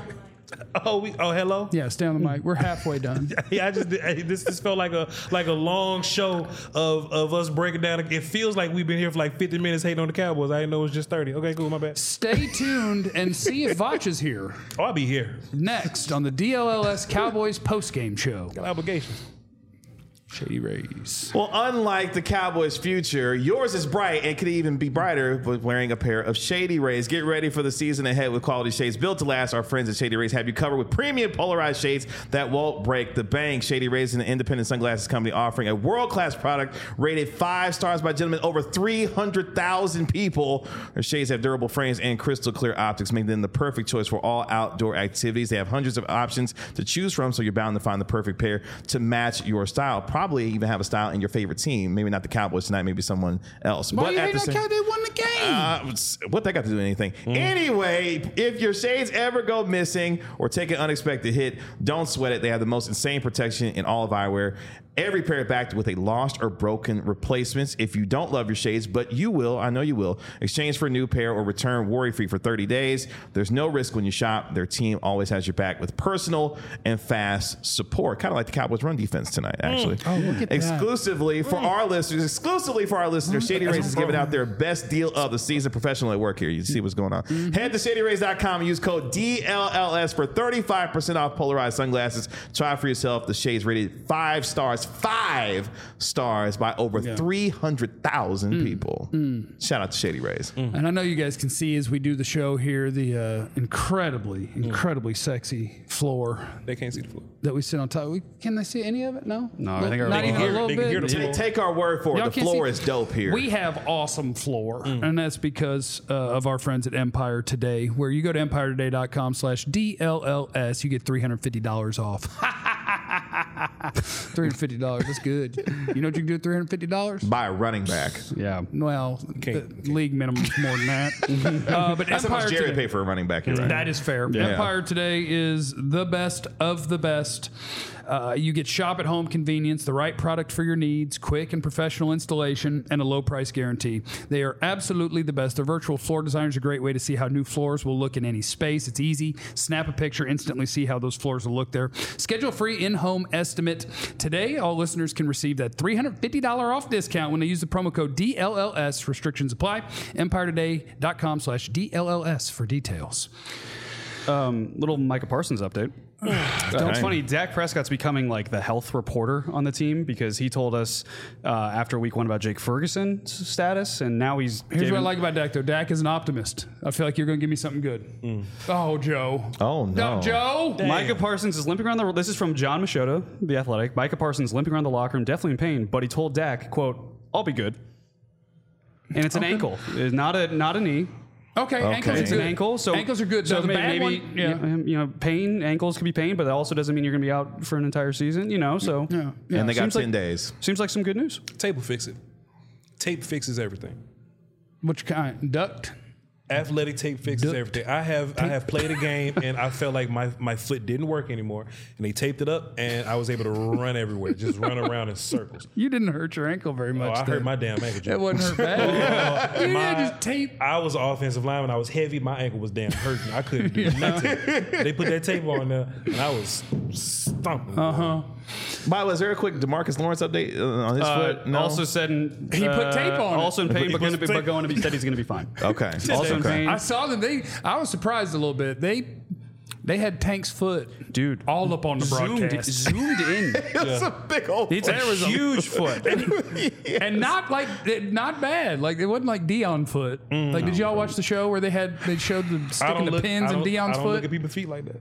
Hello. Yeah, stay on the mic. We're halfway done. Yeah, this felt like a long show of us breaking down. It feels like we've been here for like 50 minutes hating on the Cowboys. I didn't know it was just 30. Okay, cool, my bad. Stay tuned and see if Vaj is here Oh, I'll be here. next on the DLLS Cowboys post game show. Got obligations. Shady Rays. Well, unlike the Cowboys' future, yours is bright and could even be brighter with wearing a pair of Shady Rays. Get ready for the season ahead with quality shades built to last. Our friends at Shady Rays have you covered with premium polarized shades that won't break the bank. Shady Rays is an independent sunglasses company offering a world-class product rated 5 stars by gentlemen over 300,000 people. Their shades have durable frames and crystal clear optics, making them the perfect choice for all outdoor activities. They have hundreds of options to choose from, so you're bound to find the perfect pair to match your style. Probably even have a style in your favorite team. Maybe not the Cowboys tonight, maybe someone else. Why But you at hate the that same- guy? They won the game. what that got to do with anything? Anyway, if your shades ever go missing or take an unexpected hit, don't sweat it. They have the most insane protection in all of eyewear. Every pair backed with a lost or broken replacements. If you don't love your shades, but you will, I know you will, exchange for a new pair or return worry-free for 30 days. There's no risk when you shop. Their team always has your back with personal and fast support. Kind of like the Cowboys run defense tonight, actually. Oh, look at that. Exclusively for our listeners, Shady Rays is giving out their best deal of the season. a professional at work here. You see what's going on. Head to ShadyRays.com and use code DLLS for 35% off polarized sunglasses. Try for yourself. The shades rated 5 stars by over 300,000 people. Shout out to Shady Rays. And I know you guys can see as we do the show here the incredibly sexy floor They can't see the floor. that we sit on top. Can they see any of it? No. No, I think our not even a little they can hear bit. the floor. Take our word for it. Y'all The can't floor see- is dope here. We have awesome floor, and that's because of our friends at Empire Today, where you go to empiretoday.com/DLLS, you get $350 off. $350, that's good. You know what you can do with $350? Buy a running back. Yeah. Well, the league minimum is more than that. But That's how much Empire Jerry Today, paid for a running back here, right? that is fair. Empire Today is the best of the best. You get shop at home convenience, the right product for your needs, quick and professional installation, and a low price guarantee. They are absolutely the best. Their virtual floor designer is a great way to see how new floors will look in any space. It's easy. Snap a picture, instantly see how those floors will look there. Schedule a free in-home estimate. Today, all listeners can receive that $350 off discount when they use the promo code DLLS. Restrictions apply. EmpireToday.com/DLLS for details. Little Micah Parsons update. It's funny. Dak Prescott's becoming like the health reporter on the team because he told us after week 1 about Jake Ferguson's status, and now he's. Here's what I like about Dak, though. Dak is an optimist. I feel like you're going to give me something good. Oh, Joe. Oh, no. Joe. Micah Parsons is limping around the. This is from John Machota, The Athletic. Micah Parsons limping around the locker room, definitely in pain, but he told Dak, "quote I'll be good." And it's an ankle, it's not a knee. Okay, ankles are It's good. an ankle, so ankles are good. So So the bad maybe one, you know, pain. Ankles can be pain, but that also doesn't mean you're going to be out for an entire season. You know, so And they got Seems 10 like- days. seems like some good news. Tape will fix it. Tape fixes everything. Which kind? Duct? Athletic tape fixes Duct. everything. I have played a game and I felt like my foot didn't work anymore, and they taped it up, and I was able to run everywhere, just run around in circles. You didn't hurt your ankle very Oh, much. I then. hurt my damn ankle. That Joe. wasn't hurt bad. You didn't just tape. I was an offensive lineman. I was heavy. My ankle was damn hurting. I couldn't do nothing. They put that tape on there, and I was stomping. By the way, is there a quick DeMarcus Lawrence update on his foot? No. Also said He put tape on it. Also in pain, He but put going to be said he's going to be fine. Okay. Also in Okay. pain, I saw that I was surprised a little bit. They had Tank's foot, dude. all up on the broadcast. Zoomed in. It's a big old It's a huge foot. And not bad. Like it wasn't like Dion foot. Like did y'all watch the show where they showed the sticking the pins in Dion's I don't look foot? at people's feet like that.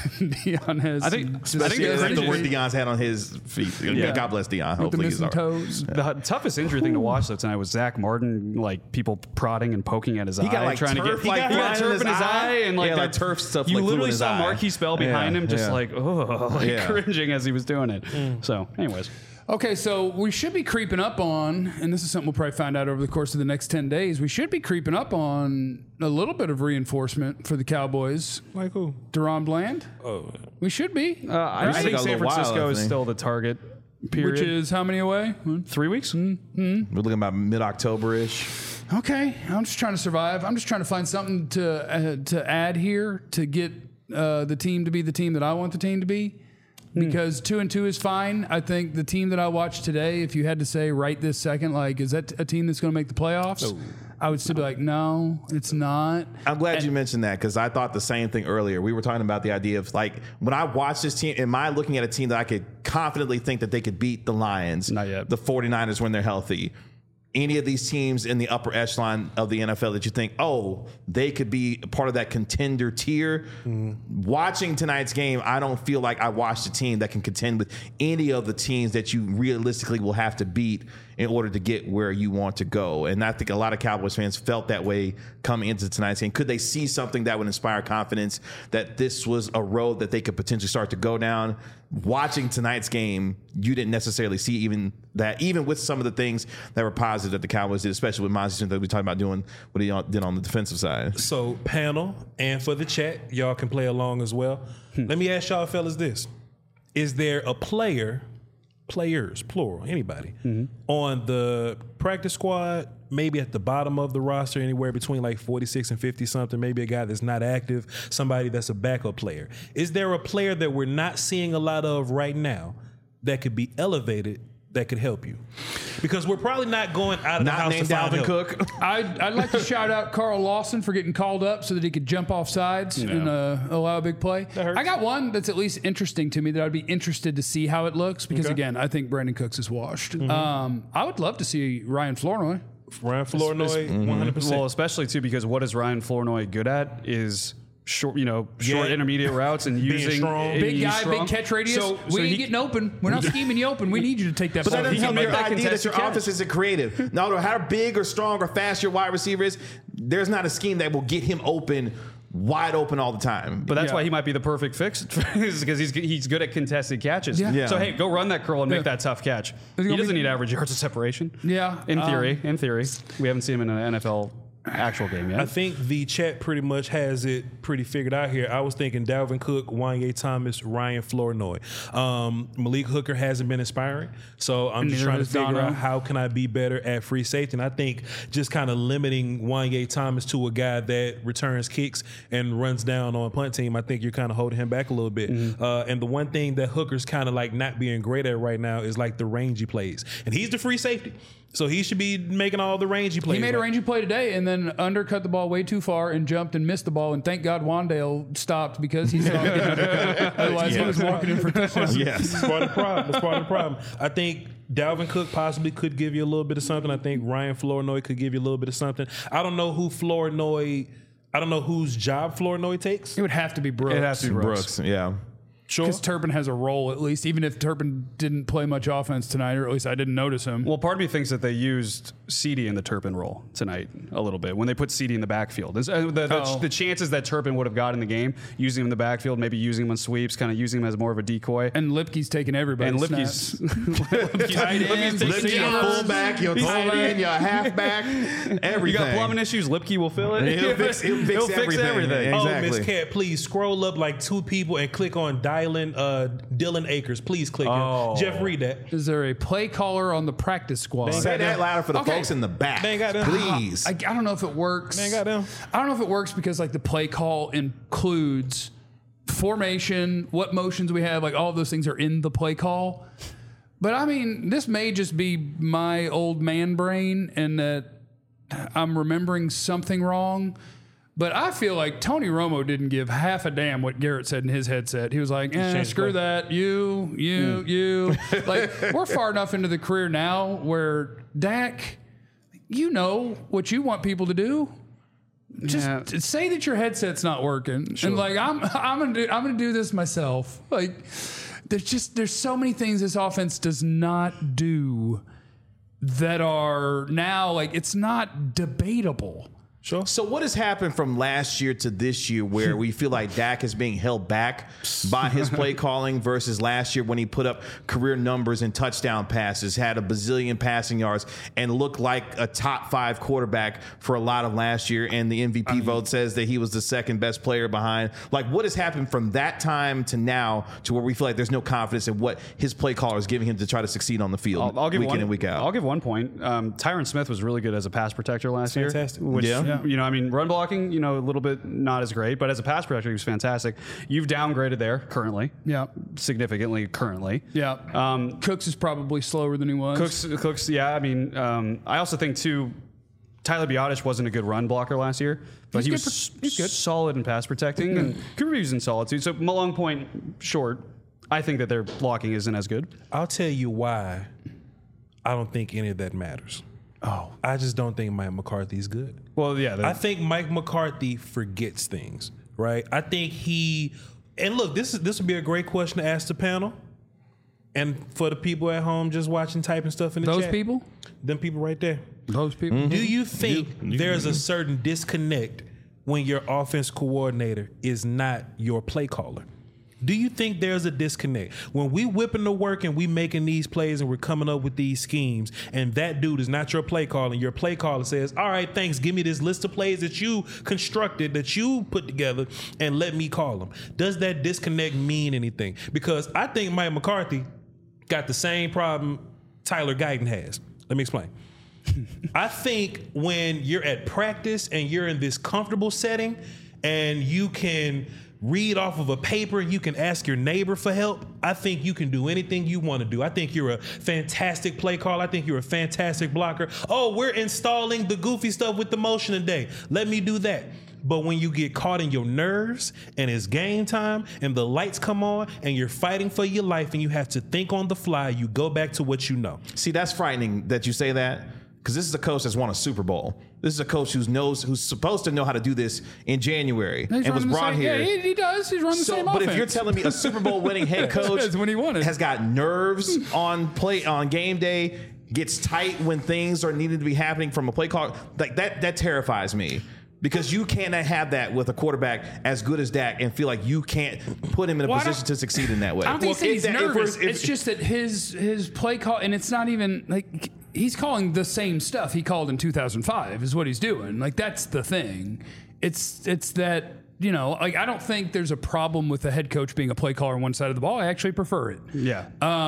Dion has. I think some it's Yeah, crazy. the word Dion's had on his feet. God bless Dion. with the Hopefully he's missing all right. toes. The toughest injury thing to watch though tonight was Zach Martin, like people prodding and poking at his eye, He got like trying turf, to get like, he got flying turf in his eye, and like yeah, like that- turf stuff. You like, flew in literally his saw eye. Marquise Bell behind him, just like Yeah. cringing as he was doing it. So, anyways, Okay, so we should be creeping up on, and this is something we'll probably find out over the course of the next 10 days. We should be creeping up on a little bit of reinforcement for the Cowboys. Like who? Deron Bland. Oh, We should be. I Right? think Got a San little wild, Francisco I is think. still the target. Period. Which is how many away? 3 weeks. We're looking about mid-October ish. Okay, I'm just trying to survive. I'm just trying to find something to add here to get the team to be the team that I want the team to be. Because 2-2 is fine. I think the team that I watched today, if you had to say right this second, like, is that a team that's going to make the playoffs? I would still be like, no, it's not. I'm glad you mentioned that because I thought the same thing earlier. We were talking about the idea of like when I watch this team, am I looking at a team that I could confidently think that they could beat the Lions, Not yet. the 49ers when they're healthy? Any of these teams in the upper echelon of the NFL that you think, oh, they could be part of that contender tier. Watching tonight's game, I don't feel like I watched a team that can contend with any of the teams that you realistically will have to beat in order to get where you want to go. And I think a lot of Cowboys fans felt that way coming into tonight's game. Could they see something that would inspire confidence that this was a road that they could potentially start to go down? Watching tonight's game, you didn't necessarily see even that, even with some of the things that were positive that the Cowboys did, especially with Monty Smith that we talked about doing what he did on the defensive side. so panel and for the chat, y'all can play along as well. Let me ask y'all fellas this. Is there a players, plural, anybody, on the practice squad, maybe at the bottom of the roster, anywhere between like 46 and 50 something, maybe a guy that's not active, somebody that's a backup player? Is there a player that we're not seeing a lot of right now that could be elevated that could help you? Because we're probably not going out of the Not house named to find Dalvin help. Cook. I'd like to shout out Carl Lawson for getting called up so that he could jump off sides and allow a big play. hurts. I got one that's at least interesting to me that I'd be interested to see how it looks because, again, I think Brandon Cooks is washed. I would love to see Ryan Flournoy. Ryan Flournoy, 100%. Well, especially too because what is Ryan Flournoy good at is short, short intermediate routes and using strong. and Big use guy, strong. big catch radius. So we ain't he- getting open. We're not scheming you open. We need you to take that But that ball. doesn't help make your that idea that contested your catch. offense isn't creative. No matter how big or strong or fast your wide receiver is, there's not a scheme that will get him open, wide open all the time. But that's Yeah. why he might be the perfect fix because he's good at contested catches. Yeah. So hey, go run that curl and make that tough catch. He gonna doesn't be- need average yards of separation. Yeah, In theory, we haven't seen him in an NFL actual game yet. I think the chat pretty much has it pretty figured out here. I was thinking Dalvin Cook, Wanye Thomas, Ryan Flournoy. Malik Hooker hasn't been inspiring, so I'm just Neither trying to has figure Dono. out how can I be better at free safety. And I think just kind of limiting Wanye Thomas to a guy that returns kicks and runs down on punt team, I think you're kind of holding him back a little bit. And the one thing that Hooker's kind of like not being great at right now is like the rangy plays, and he's the free safety. So he should be making all the rangy plays. He made a Like, rangy play today and then undercut the ball way too far and jumped and missed the ball. And thank God Wandale stopped because he saw it. Otherwise, he was walking in for touchdowns. Yes. That's part of the problem. That's part of the problem. I think Dalvin Cook possibly could give you a little bit of something. I think Ryan Flournoy could give you a little bit of something. I don't know whose job Flournoy takes. It would have to be Brooks. it has to be Brooks. Yeah. Sure. Because Turpin has a role, at least, even if Turpin didn't play much offense tonight, or at least I didn't notice him. Well, part of me thinks that they used CD in the Turpin role tonight a little bit when they put CD in the backfield. The chances that Turpin would have got in the game, using him in the backfield, maybe using him on sweeps, kind of using him as more of a decoy. And Lipke's taking everybody. And Lipke's Tight ends, taking Lift your receivers. fullback, your tight end, your halfback, everything. You got plumbing issues, Lipke will fill it. He'll fix everything. Oh, Exactly. Miss Cat, please scroll up like 2 people and click on dialing Dylan Akers. Please click Oh. him. Jeff, read that. Is there a play caller on the practice squad? Say that louder for the Okay. folks in the back. They ain't got them. Please. I don't know if it works. Man, goddamn. I don't know if it works because like the play call includes formation, what motions we have, like all of those things are in the play call. But I mean, this may just be my old man brain and that I'm remembering something wrong. But I feel like Tony Romo didn't give half a damn what Garrett said in his headset. He was like, changed screw play. that. You. Like, we're far enough into the career now where Dak, you know what you want people to do. Just say that your headset's not working, and like I'm gonna do this myself. Like there's so many things this offense does not do that are now like it's not debatable. Sure. So what has happened from last year to this year where we feel like Dak is being held back by his play calling versus last year when he put up career numbers and touchdown passes, had a bazillion passing yards, and looked like a top 5 quarterback for a lot of last year, and the MVP vote says that he was the second best player behind. Like, what has happened from that time to now to where we feel like there's no confidence in what his play caller is giving him to try to succeed on the field I'll give week one, in and week out? I'll give one point. Tyron Smith was really good as a pass protector last year. Fantastic. Which, Yeah. I mean, run blocking, a little bit not as great, but as a pass protector, he was fantastic. You've downgraded there currently. Yeah. Significantly currently. Yeah. Cooks is probably slower than he was. Cooks, yeah. I mean, I also think, too, Tyler Biotish wasn't a good run blocker last year, but He's he's good. solid in pass protecting, and Cooper Reeves in solid, too. So, long point short, I think that their blocking isn't as good. I'll tell you why I don't think any of that matters. I just don't think Mike McCarthy's good. Well, yeah. I think Mike McCarthy forgets things, right? I think and look, this would be a great question to ask the panel. And for the people at home just watching, typing stuff in the Those chat. people? Them people right there. Those people. Do you think there's a certain disconnect when your offense coordinator is not your play caller? Do you think there's a disconnect when we whipping the work and we making these plays and we're coming up with these schemes and that dude is not your play caller and your play caller says, all right, thanks, give me this list of plays that you constructed, that you put together, and let me call them? Does that disconnect mean anything? Because I think Mike McCarthy got the same problem Tyler Guyton has. Let me explain. I think when you're at practice and you're in this comfortable setting and you can read off of a paper. You can ask your neighbor for help. I think you can do anything you want to do. I think you're a fantastic play caller. I think you're a fantastic blocker. Oh, we're installing the goofy stuff with the motion today. Let me do that. But when you get caught in your nerves and it's game time and the lights come on and you're fighting for your life and you have to think on the fly, you go back to what you know. See, that's frightening that you say that, because this is a coach that's won a Super Bowl. This is a coach who's supposed to know how to do this in January and was brought here. Yeah, he does. He's running the same But offense. if you're telling me a Super Bowl winning head coach That's when he won it. has got nerves on game day, gets tight when things are needed to be happening from a play call, like that terrifies me. Because you cannot have that with a quarterback as good as Dak and feel like you can't put him in a position to succeed in that way. I don't think he's nervous. If it's just that his play call, and it's not even like he's calling the same stuff he called in 2005 is what he's doing. Like, that's the thing. It's that, you know, like, I don't think there's a problem with the head coach being a play caller on one side of the ball. I actually prefer it. Yeah.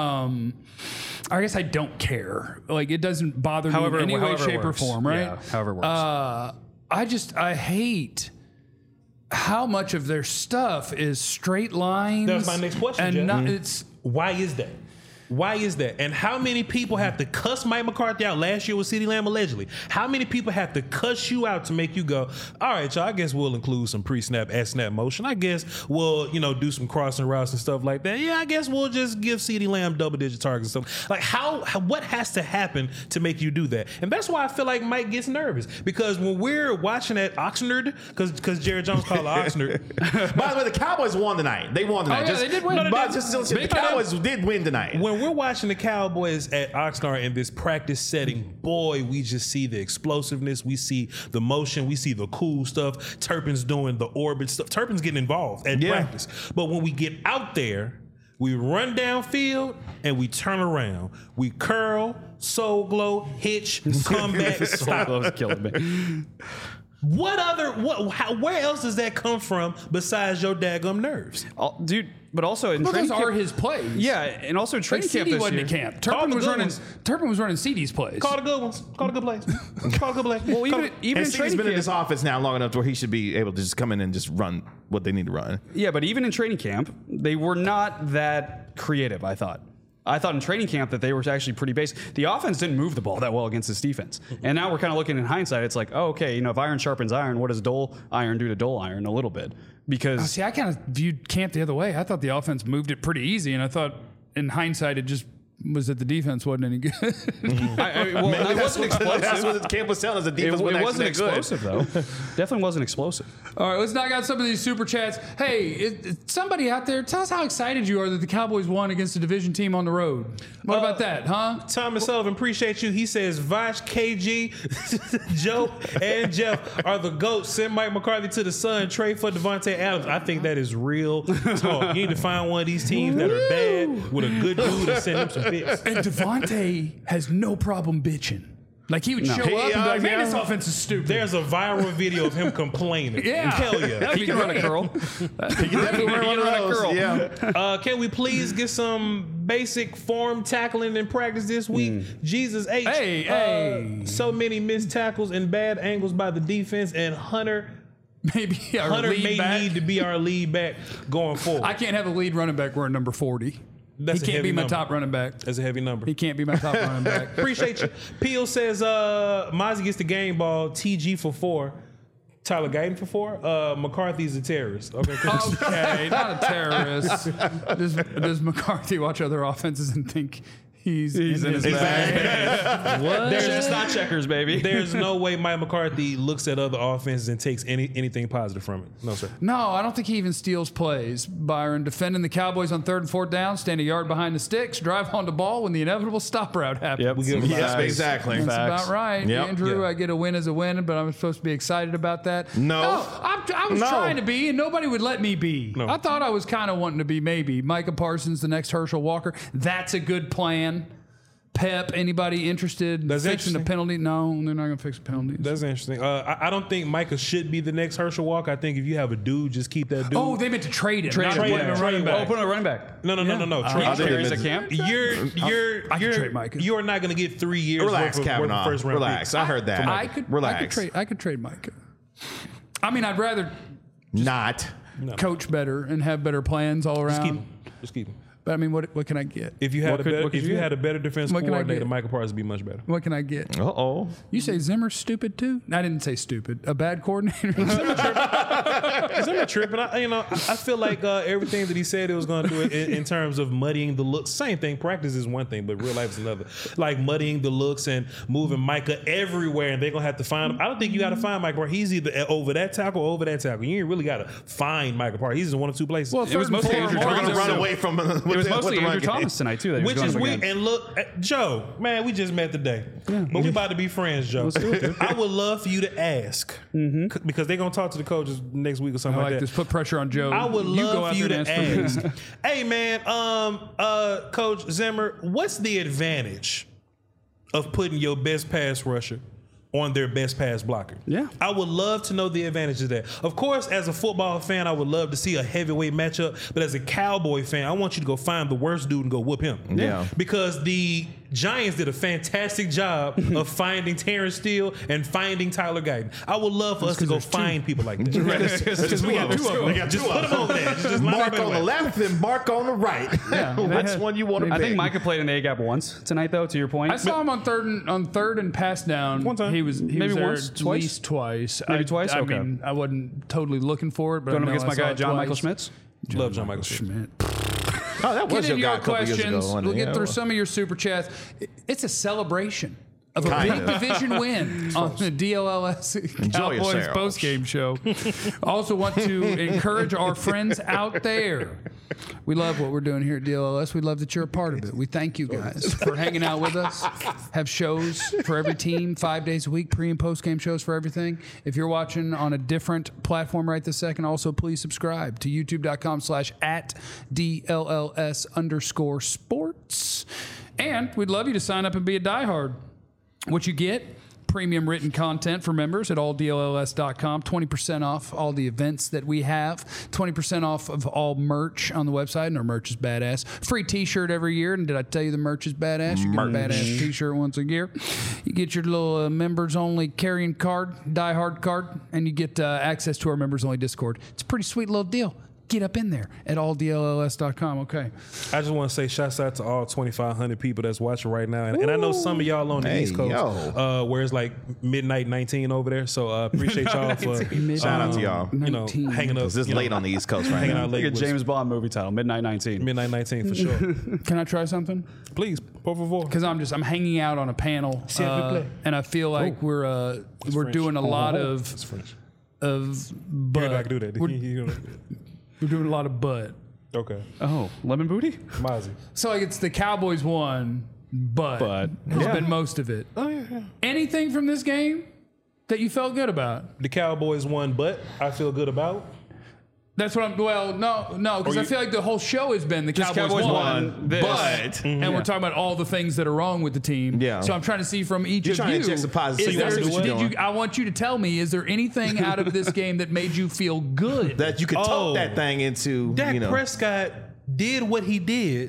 I guess I don't care. Like, it doesn't bother me in any way, shape, or form, right? Yeah, however it works. I hate how much of their stuff is straight lines. That's my next question, and Jeff. it's Why is that? Why is that? And how many people have to cuss Mike McCarthy out last year with CeeDee Lamb allegedly? How many people have to cuss you out to make you go, all right, y'all, I guess we'll include some pre-snap, at-snap motion. I guess we'll, do some crossing routes and stuff like that. Yeah, I guess we'll just give CeeDee Lamb double-digit targets and stuff. Like, what has to happen to make you do that? And that's why I feel like Mike gets nervous. Because when we're watching at Oxnard, because Jared Jones called it Oxnard. By the way, the Cowboys won tonight. They won tonight. Oh, yeah, they did win. The Cowboys did win tonight. When we're watching the Cowboys at Oxnard in this practice setting, boy, we just see the explosiveness. We see the motion. We see the cool stuff. Turpin's doing the orbit stuff. Turpin's getting involved at practice. But when we get out there, we run downfield and we turn around. We curl, soul glow, hitch, come back, stop. That was killing me. Where else does that come from besides your daggum nerves? Dude, but also in training those camp, are his plays. Yeah, and also in Like, training camp CD this wasn't year. at camp. Call the good Turpin was running CD's plays. Call the good ones. Call the good plays. Call the good plays. Well, even And in Steve's training been in camp, this offense now long enough to where he should be able to just come in and just run what they need to run. yeah, but even in training camp, they were not that creative, I thought. I thought in training camp that they were actually pretty basic. The offense didn't move the ball that well against this defense. And now we're kind of looking in hindsight. It's like, oh, okay, if iron sharpens iron, what does dull iron do to dull iron? A little bit. Because See, I kind of viewed camp the other way. I thought the offense moved it pretty easy, and I thought in hindsight it just was that the defense wasn't any good. it wasn't explosive. That's what the camp was telling us. The defense It wasn't actually good. explosive, though. Definitely wasn't explosive. All right, let's knock out some of these super chats. Hey, somebody out there, tell us how excited you are that the Cowboys won against a division team on the road. What about that, huh? Thomas Sullivan, appreciate you. He says, Vosh, KG, Joe, and Jeff are the GOATs. Send Mike McCarthy to the Sun, trade for Devontae Adams. I think that is real talk. You need to find one of these teams that are bad with a good dude and send them some picks. And Devontae has no problem bitching. Like, he would show up and be like, man, this offense is stupid. There's a viral video of him complaining. Yeah. Hell yeah. He can run a curl. He can run a curl. Yeah. Can we please get some basic form tackling in practice this week? Jesus H. Hey. So many missed tackles and bad angles by the defense, and Hunter Maybe our Hunter lead may back. need to be our lead back going forward. I can't have a lead running back wearing number 40. That's a He can't heavy be my number. top running back. That's a heavy number. He can't be my top running back. Appreciate you. Peel says Mozzie gets the game ball. TG for 4. Tyler Guyton for 4. McCarthy's a terrorist. Okay, cool. Okay, not a terrorist. Does McCarthy watch other offenses and think he's in his bag? What? There's just not checkers, baby. There's no way Mike McCarthy looks at other offenses and takes anything positive from it. No, sir. No, I don't think he even steals plays. Byron defending the Cowboys on 3rd and 4th down, stand a yard behind the sticks, drive on the ball when the inevitable stop route happens. Yep. We give him Yes, facts. exactly. That's Facts. about right. Yep. Andrew, Yeah. I get a win as a win, but I'm supposed to be excited about that. No. I was No. trying to be, and nobody would let me be. No. I thought I was kind of wanting to be maybe. Micah Parsons, the next Herschel Walker. That's a good plan. Pep, anybody interested in That's fixing the interesting. penalty? No, they're not going to fix the penalties. That's interesting. I don't think Micah should be the next Herschel Walker. I think if you have a dude, just keep that dude. Oh, they meant to trade him. Trade not him. put him in Trade running him. back. Oh, put on a running back. No. Trade I think Carries they a camp. I could trade Micah. You're not going to get 3 years Relax, worth of Kavanaugh. first round Relax. picks. I heard that. I could Relax. trade Micah. I mean, I'd rather Not. coach better and have better plans all around. Just keep him. But I mean, what can I get? If you had What a better defense What can I coordinator, get? Michael Parsons would be much better. What can I get? Uh-oh. You say Zimmer's stupid too? I didn't say stupid. A bad coordinator. Zimmer tripping. I feel like everything that he said he was going to do in terms of muddying the looks. Same thing. Practice is one thing, but real life is another. Like muddying the looks and moving Micah everywhere, and they're going to have to find him. I don't think you got to find Micah Parsons. He's either over that tackle or over that tackle. You ain't really got to find Micah Parsons. He's in one or two places. Well, It was mostly Andrew We're going Thomas. to run too. away from It was mostly Andrew Thomas tonight too. That he was Which going is up weird. against. And look, Joe, man, we just met today, but we about to be friends, Joe. I would love for you to ask because they're gonna talk to the coaches next week or I something like like this. that. Put pressure on Joe. I would You go love out for you there to and ask for me. ask. Hey, man, Coach Zimmer, what's the advantage of putting your best pass rusher on their best pass blocker? Yeah. I would love to know the advantage of that. Of course, as a football fan, I would love to see a heavyweight matchup, but as a Cowboy fan, I want you to go find the worst dude and go whoop him. Yeah. Because the Giants did a fantastic job of finding Terrence Steele and finding Tyler Guyton. I would love for us to go find people like that. Because we got two of them. We got Just two put of them over there. Just line Mark them on the everywhere. left and Mark on the right. Which one you want to I pick? think Micah played in the A gap once tonight, though. To your point, I saw him on third and pass down. One time. He was Maybe there once, at twice? least twice. Maybe I, twice? I Okay. mean, I wasn't totally looking for it, but going I up know against I my saw guy it John Michael twice. Schmitz. Love John Michael Schmidt. Schmidt. Oh, that was Get your in guy your a couple years questions. ago. wasn't We'll it? get through Yeah. some of your super chats. It's a celebration of a Kinda. big division win on the DLLS Cowboys yourself. post-game show. Also want to encourage our friends out there. We love what we're doing here at DLLS. We love that you're a part of it. We thank you guys for hanging out with us. Have shows for every team 5 days a week, pre and post-game shows for everything. If you're watching on a different platform right this second, also please subscribe to youtube.com/@DLLS_sports. And we'd love you to sign up and be a diehard. What you get, premium written content for members at alldlls.com, 20% off all the events that we have, 20% off of all merch on the website, and our merch is badass. Free t-shirt every year, and did I tell you the merch is badass? You get a badass t-shirt once a year. You get your little members-only carrying card, diehard card, and you get access to our members-only Discord. It's a pretty sweet little deal. Get up in there at alldlls.com. Okay. I just want to say shouts out to all 2,500 people that's watching right now. And I know some of y'all on the Hey, East Coast where it's like midnight 19 over there. So appreciate y'all for Shout out to y'all. you know, 19. hanging up. It's this you know, late on the East Coast right hanging now. out late Like a with James Bond movie title, Midnight 19. midnight 19 for sure. Can I try something? Please, por favor. Because I'm hanging out on a panel, S'il vous plaît. and I feel like we're French. doing a lot It's French. of You're not butt. gonna do that. We're doing a lot of butt. Okay. Oh, lemon booty. Mozzie. So like it's the Cowboys won, but has been most of it. Oh, yeah. Anything from this game that you felt good about? The Cowboys won, but I feel good about. That's what I'm. Well, no, because I feel like the whole show has been the Cowboys, won, this. But and we're talking about all the things that are wrong with the team. Yeah. So I'm trying to see from each You're of trying to you. inject some positive. is So you there- wanna see what you're did you? doing. I want you to tell me: is there anything out of this game that made you feel good? that you could Oh. talk that thing into, Dak you know. Prescott did what he did.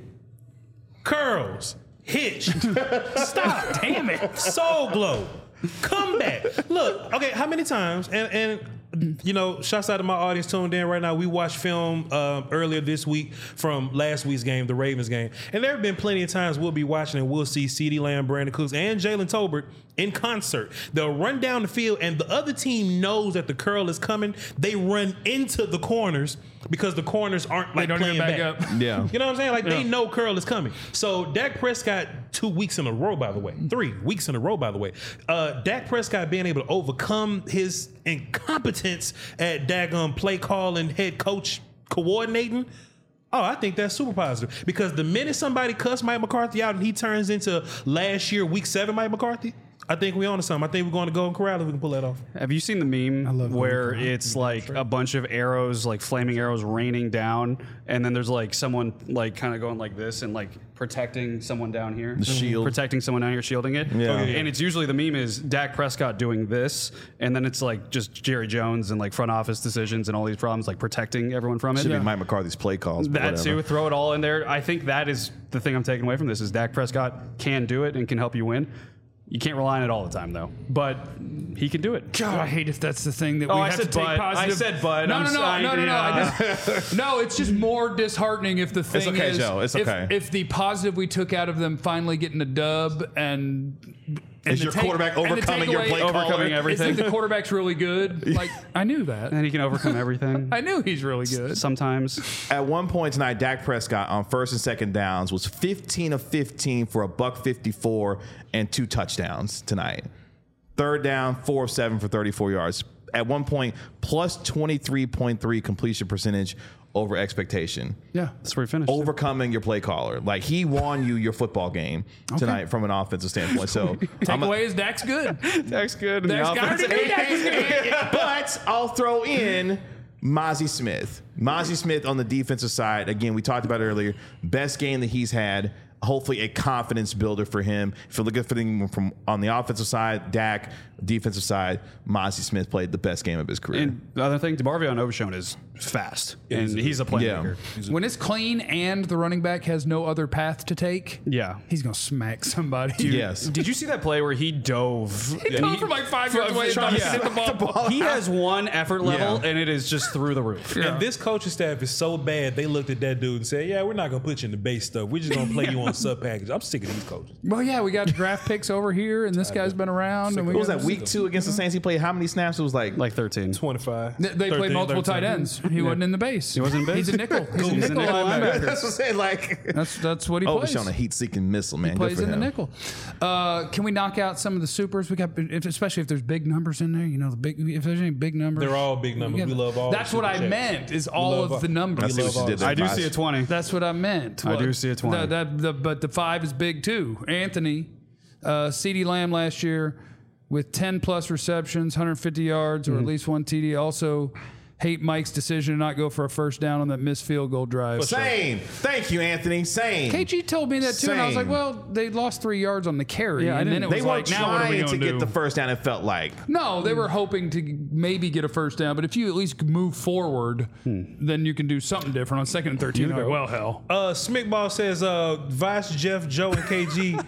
Curls, hitch, stop, Damn it! soul glow, come back. Look, okay, how many times? And you know, shouts out to my audience tuned in right now. We watched film earlier this week from last week's game, the Ravens game, and there have been plenty of times we'll be watching and we'll see CeeDee Lamb, Brandon Cooks, and Jalen Tolbert in concert. They'll run down the field, and the other team knows that the curl is coming. They run into the corners because the corners aren't like don't playing even back back. up. Yeah. You know what I'm saying? Like they know curl is coming. So Dak Prescott 2 weeks in a row, by the way, 3 weeks in a row, by the way. Dak Prescott being able to overcome his incompetence at daggum play call and head coach coordinating. Oh, I think that's super positive because the minute somebody cussed Mike McCarthy out and he turns into last year week 7 Mike McCarthy, I think we on to something. I think we're going to Golden Corral if we can pull that off. Have you seen the meme where it's like a bunch of arrows, like flaming arrows raining down, and then there's like someone like kind of going like this and like protecting someone down here, shield. protecting someone down here, shielding it. Yeah. And it's usually the meme is Dak Prescott doing this, and then it's like just Jerry Jones and like front office decisions and all these problems, like protecting everyone from it. Should be Mike McCarthy's play calls. But That whatever. too, throw it all in there. I think that is the thing I'm taking away from this is Dak Prescott can do it and can help you win. You can't rely on it all the time, though. But he can do it. God, I hate if that's the thing that we Oh, have I said to take but. positive. I said but. No, I'm no, no, sorry. no, no, no. Yeah. No, it's just more disheartening if the thing okay, is Joe. It's if, okay. if the positive we took out of them finally getting a dub and Is the your quarterback and the overcoming your takeaway- play caller? Overcoming It's everything. like the quarterback's really good. Like I knew that. And he can overcome everything. I knew he's really good. Sometimes. At one point tonight, Dak Prescott on first and second downs was 15 of 15 for $154 and 2 touchdowns tonight. Third down, 4 of 7 for 34 yards. At one point, plus 23.3 completion percentage over expectation. Yeah, that's where he finished. Overcoming your play caller. Like he won you your football game tonight from an offensive standpoint. So Takeaway is Dak's good. That's good. Dak's got it. but I'll throw in Mozzie Smith. Mozzie Smith on the defensive side. Again, we talked about it earlier. Best game that he's had. Hopefully a confidence builder for him. If you're looking for him from on the offensive side, Dak, defensive side, Mozzie Smith played the best game of his career. And the other thing, DeMarvion Overshown is fast. And he's a playmaker. When it's clean and the running back has no other path to take, Yeah. he's gonna smack somebody. Yes. Did you see that play where he dove? He dove from like 5 yards away and trying thought to he hit the ball. He has one effort level, Yeah. and it is just through the roof. And this coaching staff is so bad, they looked at that dude and said, yeah, we're not going to put you in the base stuff. We're just going to play you on sub package. I'm sick of these coaches. Well, yeah, we got draft picks over here, and this guy's been around. And we What was got- that, week 2 against the Saints? He played how many snaps? It was like 13. 25. They played multiple tight ends. He wasn't in the base. He wasn't in base? He's a nickel. He's a He's a nickel nickel linebacker. that's what I'm saying. Like, That's what he plays. Overshown a heat-seeking missile, man. He Good plays for in the him. nickel. Can we knock out some of the supers? We got, especially if there's big numbers in there. You know, the big. If there's any big numbers, They're all big numbers. We love all That's the what I super chats. meant. Is all love of the all- numbers. I see what you did there, I do Bosh. see a 20. That's what I meant. I do see a 20. But the 5 is big too. Anthony, CeeDee Lamb last year with 10 plus receptions, 150 yards, or at least 1 TD. Also, hate Mike's decision to not go for a first down on that missed field goal drive. Same. Thank you, Anthony. Same. KG told me that too, and I was like, Same. well, they lost 3 yards on the carry, Yeah, I and then didn't- it They was weren't like, now what are we trying to going to get do? the first down, it felt like. No, they were hoping to maybe get a first down, but if you at least move forward, then you can do something different on 2nd and 13. Like, well, hell. Smickball says, Vice, Jeff, Joe, and KG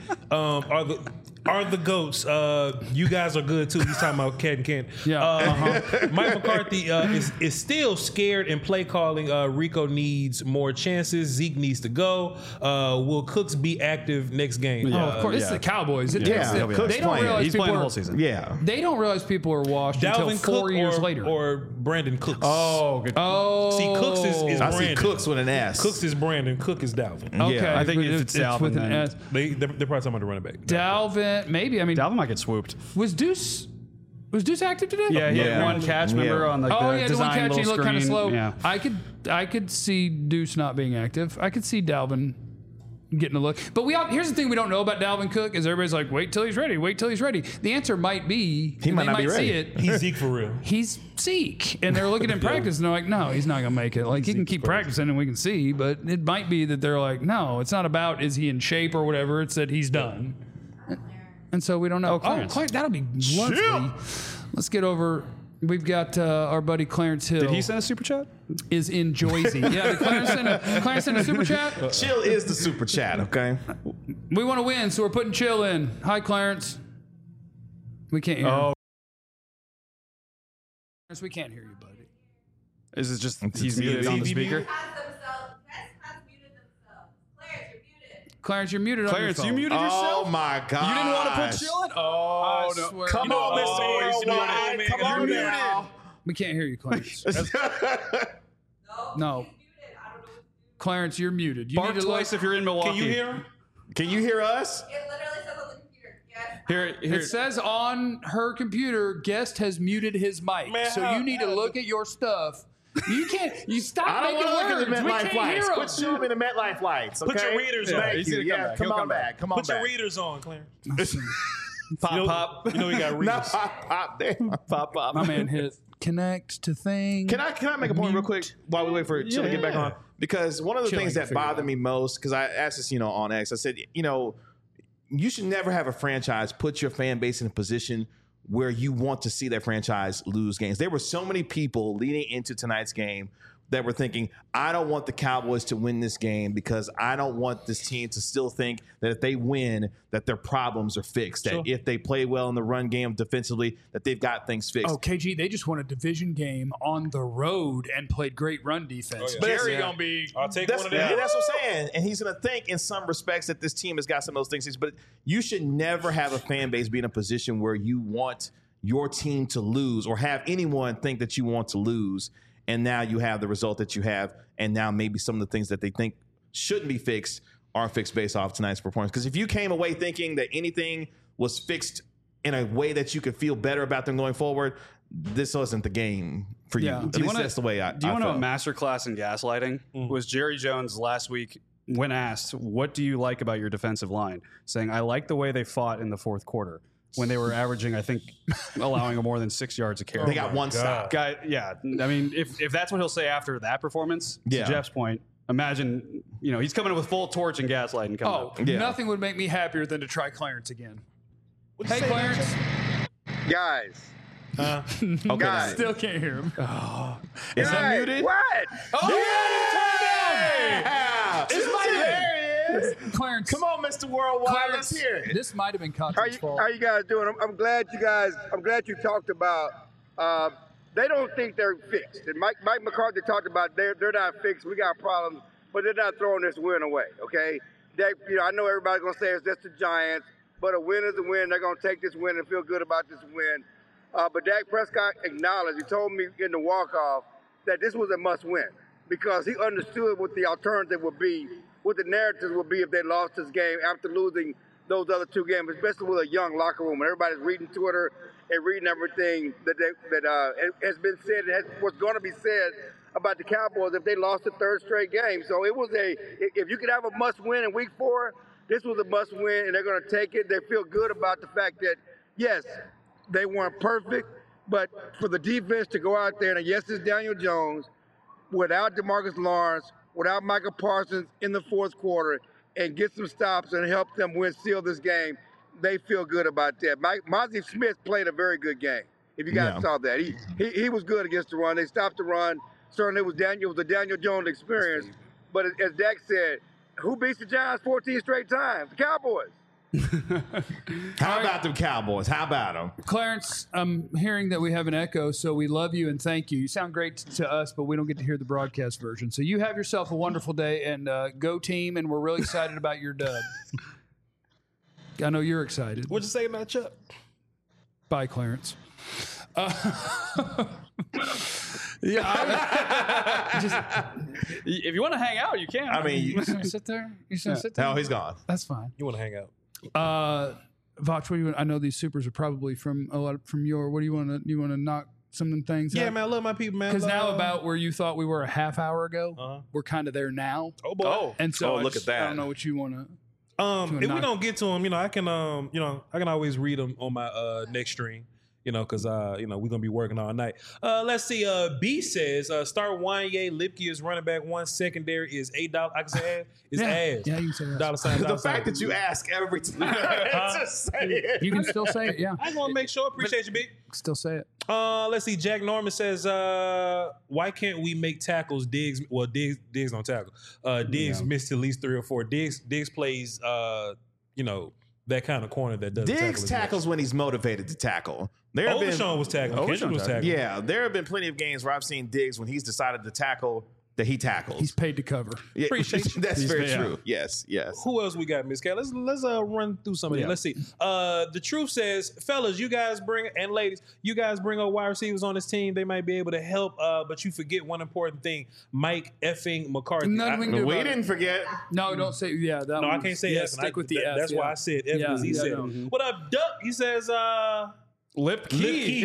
are the GOATs. You guys are good too. He's talking about Cat and Ken. Yeah. Mike McCarthy is still scared in play calling. Rico needs more chances. Zeke needs to go. Will Cooks be active next game? Oh, of course, it's the Cowboys. It Yeah, takes, Cook's they don't playing. realize He's people playing the are, whole season. Yeah. They don't realize people are washed until Dalvin 4 Cook years later. or Brandon Cooks. Oh, good. Oh, See, Cooks is I see Brandon. Cooks with an S. Cooks is Brandon. Cook is Dalvin. okay. Yeah. I think but if it's Dalvin, with an then- S. They're probably talking about the running back. Dalvin, maybe. I mean, Dalvin might get swooped. was Deuce active today? Yeah, he Yeah. had one catch, remember, Yeah. on like Oh the yeah, the design one catch he little looked kind of screen. slow. Yeah. I could see Deuce not being active. I could see Dalvin getting a look. But here's the thing we don't know about Dalvin Cook is everybody's like, wait till he's ready. Wait till he's ready. The answer might be He might they not be see ready. it. He's Zeke for real. He's Zeke, and they're looking in practice, and they're like, "No, he's not gonna make it. Like he can keep practicing, and we can see, but it might be that they're like, no, it's not about is he in shape or whatever. It's that he's done, and so we don't know. Clarence. Clarence, that'll be lovely. Let's get over. We've got our buddy Clarence Hill. Did he send a super chat? is in Joyzy. Yeah, did Clarence send a super chat? Chill is the super chat, okay? We want to win, so we're putting Chill in. Hi, Clarence. We can't hear. Oh. him. Clarence, we can't hear you, buddy. Is it just It's he's a muted on the TV speaker? Has muted themselves. Clarence, you're muted. Clarence, you're muted. Clarence, on you your phone. muted yourself? Oh my god! You didn't want to put Chill in? Oh, I no. swear. Come You know- on, Mr. Oh, he's Worldwide. muted. Come on You're now. We can't hear you, Clarence. No. No. He's muted. I don't know what to do. Clarence, you're muted. You Bark need to twice if you're in Milwaukee. Can you hear him? Can you hear us? It literally says on the computer. Yes. Here, It says on her computer, guest has muted his mic. Man, so you need to look at your stuff. You can't. You stop I don't making want to look words. at the We MetLife can't lights. hear Quit them. showing me the MetLife lights. Okay? Put your readers on. Thank He's you. gonna come Yeah, back. come He'll on come back. Come on Put back. your readers on, Clarence. pop, You know, pop. You know we got No, readers. pop there. Pop, pop. My man hit connect to thing. Can I make a point real quick while we wait for Chill to get back on? Because one of the Chill things can that figure it bothered out. me most, because I asked this, on X, I said, you should never have a franchise put your fan base in a position where you want to see that franchise lose games. There were so many people leading into tonight's game that were thinking, I don't want the Cowboys to win this game because I don't want this team to still think that if they win, that their problems are fixed. That if they play well in the run game defensively, that they've got things fixed. Oh, KG, they just won a division game on the road and played great run defense. Oh, yeah. Jerry Yeah. gonna be. I'll take That's, one of them. yeah, that's what I'm saying. And he's going to think in some respects that this team has got some of those things. But you should never have a fan base be in a position where you want your team to lose or have anyone think that you want to lose. And now you have the result that you have. And now maybe some of the things that they think shouldn't be fixed are fixed based off tonight's performance. Because if you came away thinking that anything was fixed in a way that you could feel better about them going forward, this wasn't the game for you. Yeah. At Do you least wanna- that's the way I Do you want to know a felt. masterclass in gaslighting? Was Jerry Jones last week when asked, what do you like about your defensive line? Saying, I like the way they fought in the fourth quarter when they were averaging, I think, allowing more than 6 yards a carry. They got one stop. Guy, yeah. I mean, if that's what he'll say after that performance, Yeah. to Jeff's point, imagine, he's coming with full torch and gaslighting coming Oh, up. Yeah. nothing would make me happier than to try Clarence again. What'd you Hey, say, Clarence. Guys. Okay, Guys. Still can't hear him. is that Hey, muted? what? Yeah! There he is. Clarence. Come on, Mr. Worldwide. Clarence, Let's hear it. this might have been How Cochran's you, fault. how you guys doing? I'm glad you talked about, they don't think they're fixed. And Mike McCarthy talked about they're not fixed. We got problems, but they're not throwing this win away, okay? I know everybody's going to say it's just the Giants, but a win is a win. They're going to take this win and feel good about this win. But Dak Prescott acknowledged, he told me in the walk-off that this was a must-win because he understood what the alternative would be, what the narrative would be if they lost this game after losing those other two games, especially with a young locker room. And everybody's reading Twitter and reading everything that has been said and what's going to be said about the Cowboys if they lost the third straight game. So it was if you could have a must-win in Week 4, this was a must-win, and they're going to take it. They feel good about the fact that, yes, they weren't perfect, but for the defense to go out there, and yes, it's Daniel Jones, without DeMarcus Lawrence, without Michael Parsons in the fourth quarter, and get some stops and help them seal this game, they feel good about that. Mozzie Smith played a very good game. If you guys saw that, he was good against the run. They stopped the run. Certainly, it was the Daniel Jones experience. But as Dak said, who beats the Giants 14 straight times? The Cowboys. How about them Cowboys? How about them? Clarence, I'm hearing that we have an echo, so we love you and thank you. You sound great to us, but we don't get to hear the broadcast version. So you have yourself a wonderful day, and go team, and we're really excited about your dub. I know you're excited. What'd you say about Chuck? Bye, Clarence. If you want to hang out, you can. I mean, You just want to sit there? You just want to sit there? no, he's gone. That's fine. You want to hang out? Voch, what do you want? I know these supers are probably from a lot from your. What do you want to? You want to knock some of them things? Yeah, out? man, I love my people, man. Because now Love- about where you thought we were a half hour ago, we're kind of there now. Oh boy. And so look at that. I don't know what you want to. If we knock- don't get to them, I can I can always read them on my next stream. Because we're gonna be working all night. Let's see. B says start Wanye Lipke is running back one. Secondary is $8. I can say ass. It's ass. Yeah, you can say that. Dollar sign. The dollar sign. fact that you ask every time, just say it. You can still say it. Yeah, I just want to make sure. Appreciate you, B. still say it. Let's see. Jack Norman says, why can't we make tackles? Diggs don't tackle. Diggs missed at least 3 or 4. Diggs plays, that kind of corner that does Diggs tackles when he's motivated to tackle. There have been, Overshawn was tackling. Kendrick was tackling. yeah, there have been plenty of games where I've seen Diggs when he's decided to tackle that he tackles. He's paid to cover. Yeah, Appreciate you. That's very yeah. true. Yes. Who else we got, Miss Cat? Let's run through some of these. Let's see. The truth says, fellas, you guys bring and ladies, you guys bring up wide receivers on this team. They might be able to help, but you forget one important thing: Mike effing McCarthy. Nothing we can do We about it. didn't forget. No, don't say. Yeah, that No, I one. can't say yeah, F. Stick with the F. That's yeah. why I said F Yeah, because he yeah, said no. it. What up, Duck? He says, Lipke. Lipke.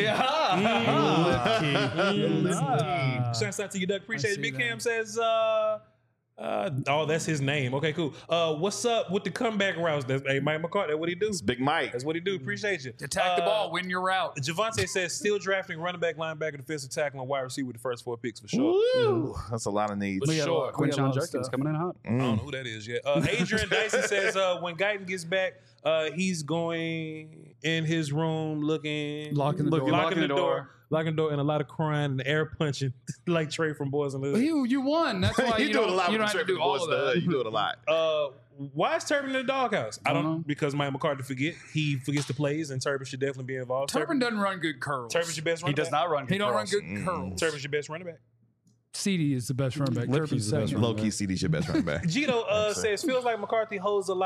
Yeah. Shouts out to you, Duck. Appreciate I it. see Big that. Cam says, that's his name. Okay, cool. What's up with the comeback routes? That's Mike McCarthy. That's what he do. Big Mike. That's what he do. Appreciate you. Attack the ball, win your route. Javante says still drafting running back, linebacker, defensive tackle, and wide receiver with the first 4 picks for sure. Woo! That's a lot of needs. We got a sure. lot- we got a Quinshon lot of Judkins stuff. coming in hot. I don't know who that is yet. Adrian Dyson says when Guyton gets back, he's going in his room looking, Locking the door. locking the door, and a lot of crying and air punching like Trey from Boys in the Hood. You won. That's why you do it a lot. You don't with have to Trey do from Boys all in of the Hood. that. You do it a lot. Why is Turbin in the doghouse? I don't know. know. Because Mike McCarthy he forgets the plays, and Turbin should definitely be involved. Turbin doesn't run good curls. Turbin's your best running He does back. not run. He don't run curls. good curls. Turbin's your best running back. CD is the best running back. Turbin's second. Low key, CD's your best running back. Gito says feels like McCarthy holds a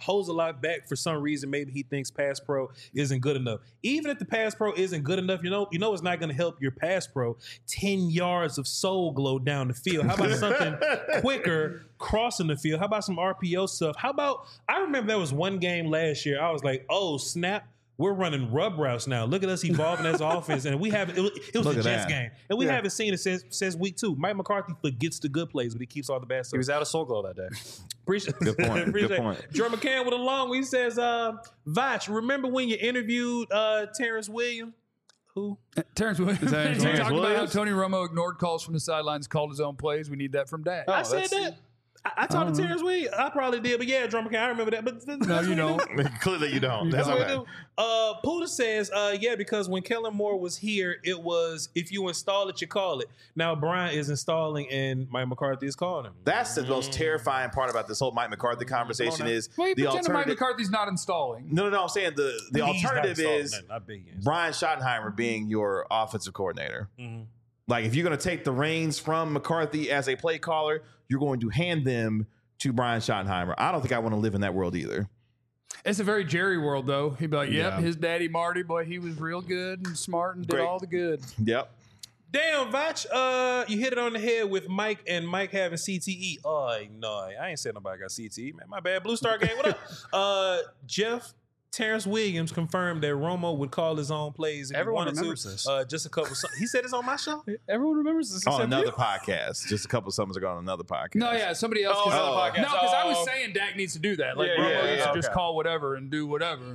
lot back for some reason. Maybe he thinks pass pro isn't good enough. Even if the pass pro isn't good enough, you know it's not going to help your pass pro. 10 yards of soul glow down the field. How about something quicker crossing the field? How about some RPO stuff? How about I remember there was one game last year. I was like, oh snap. We're running rub routes now. Look at us evolving as offense, and we have it was Look a at Jets that. game, and we haven't seen it since week 2. Mike McCarthy forgets the good plays, but he keeps all the bad stuff. He was out of soul glow that day. Appreciate Good point. appreciate Good it. point. Joe McCann with a long one. He says, Vach, remember when you interviewed Terrence Williams? Who? Terrence Williams. He Terrence talked about how Williams? Tony Romo ignored calls from the sidelines, called his own plays. We need that from Dak. I said that. I talked to Terrence Williams. I probably did, but yeah, Drum McCann, I remember that. But No, you don't. Clearly, you don't. That's That's what okay. we do. Puda says, yeah, because when Kellen Moore was here, it was if you install it, you call it. Now Brian is installing and Mike McCarthy is calling him. That's the most terrifying part about this whole Mike McCarthy conversation is Well, you the pretend Mike alternative. McCarthy's not installing. No. I'm saying the He's not alternative installing is nothing. I bet he is. Brian Schottenheimer being your offensive coordinator. Mm-hmm. Like if you're going to take the reins from McCarthy as a play caller, you're going to hand them to Brian Schottenheimer. I don't think I want to live in that world either. It's a very Jerry world, though. He'd be like, yep, Yeah. his daddy Marty, boy, he was real good and smart and did Great. all the good. Yep. Damn, Vach, you hit it on the head with Mike and Mike having CTE. Oh, no, I ain't said nobody got CTE, man. My bad. Blue Star Gang, what up? Jeff, Terrence Williams confirmed that Romo would call his own plays if Everyone he wanted remembers to. this. Just a couple. He said it's on my show. Everyone remembers this. On except another you. podcast. Just a couple of summers ago on another podcast. No, yeah, somebody else. Oh, another podcast. No, because I was Oh. saying Dak needs to do that. Like, Yeah, Romo yeah, used to yeah, just okay. call whatever and do whatever.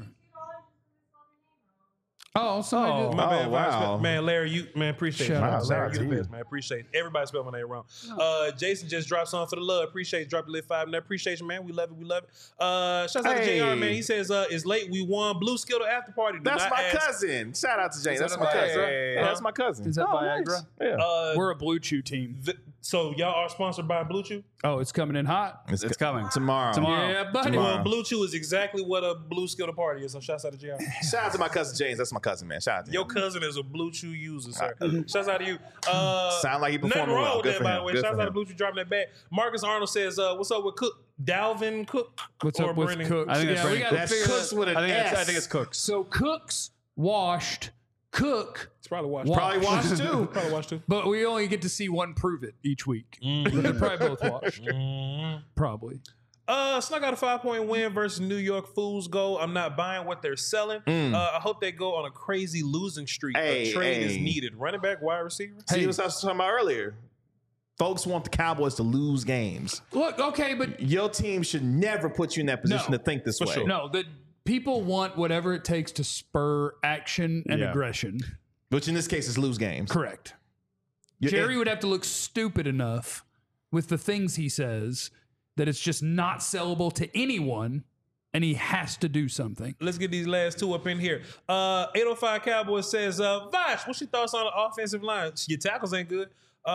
Oh, somebody did. My bad, Oh, Vach. wow. Man, Larry, you appreciate Shout it. out, Larry, shout you out the to best, you. man. Appreciate it. Everybody spelled my name wrong. Jason just dropped something for the love. Appreciate it. Drop the lit 5 and appreciate you, man. We love it. We love it. Shouts out to Hey. JR, man. He says it's late. We won Blue Skittle after party. Do That's not my ask- cousin. Shout out to Jane. That's that my a cousin. Viagra? Yeah, that's my cousin. Is that Viagra? Yeah. We're a Blue Chew team. So y'all are sponsored by Blue Chew? Oh, it's coming in hot. It's coming. Tomorrow. Yeah, buddy. Tomorrow. Well, Blue Chew is exactly what a Blue Skittle party is. So shouts out to JR. Shout out to my cousin James. That's my cousin, man. Shout out to Your him. cousin is a Blue Chew user, sir. Shouts out to you. Sound like he nothing performing wrong well. with Good that, for by him. the way. Good Shouts for out to him. Blue Chew dropping that back. Marcus Arnold says, "What's up with Cook? Dalvin Cook? What's or up with Brennan Cooks? I think it's we Brennan got to That's figure Cooks that. with an I S. think it's Cooks. So Cooks washed. Cook, It's probably watched. Probably watched too. Probably watched too. but we only get to see one prove it each week. But they're probably both washed. Probably. Snuck out a 5-point win versus New York Fools. Go. I'm not buying what they're selling. I hope they go on a crazy losing streak. Hey, a trade is hey. needed. Running back, wide receiver. See what I was talking about earlier. Folks want the Cowboys to lose games. Look, okay, but Your team should never put you in that position No, to think this for way. sure. no, the people want whatever it takes to spur action and Yeah. aggression. Which in this case is lose games. Correct. You- Jerry would have to look stupid enough with the things he says that it's just not sellable to anyone, and he has to do something. Let's get these last two up in here. 805 Cowboys says, Vash, what's your thoughts on the offensive line? Your tackles ain't good.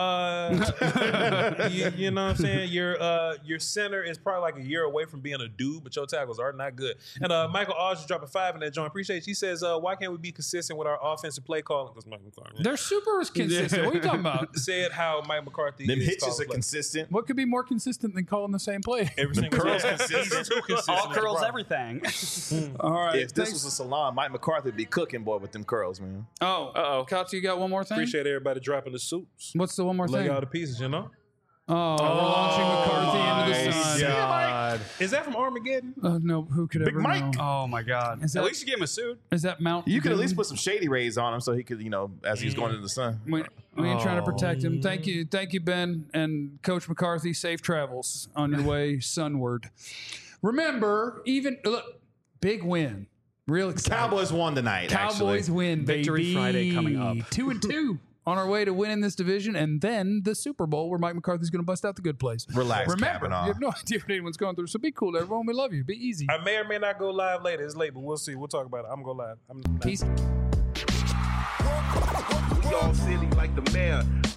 You know what I'm saying? Your center is probably like a year away from being a dude, but your tackles are not good. And Michael Aldridge dropping 5 in that joint. Appreciate it. He says, why can't we be consistent with our offensive play calling? Because Mike McCarthy They're super consistent. What are you talking about? said how Mike McCarthy Them is hitches calling are plays. consistent. What could be more consistent than calling the same play? Every single curls time. consistent. He's too consistent. All That's the curls, problem. everything. All right. If this was a salon, Mike McCarthy would be cooking, boy, with them curls, man. oh, Kotz, you got one more thing? Appreciate everybody dropping the suits. What's the one more Lay thing? all the pieces, you know? Oh, we're launching McCarthy into the sun. God. Is that from Armageddon? No, who could ever Mike. know? Oh my God. Is At that- least you gave him a suit. Is that Mount? You could at Doom? least put some shady rays on him so he could, as he's going into the sun. We ain't trying to protect him. Thank you, Ben and Coach McCarthy. Safe travels on your way sunward. Remember, look, big win, real exciting. Cowboys won tonight, Cowboys actually. win, Victory baby. Friday coming up. 2-2. on our way to winning this division, and then the Super Bowl where Mike McCarthy's going to bust out the good plays. Relax, Remember, Kavanaugh. you have no idea what anyone's going through, so be cool, everyone. We love you. Be easy. I may or may not go live later. It's late, but we'll see. We'll talk about it. I'm going to go live. Peace. We all silly like the mayor.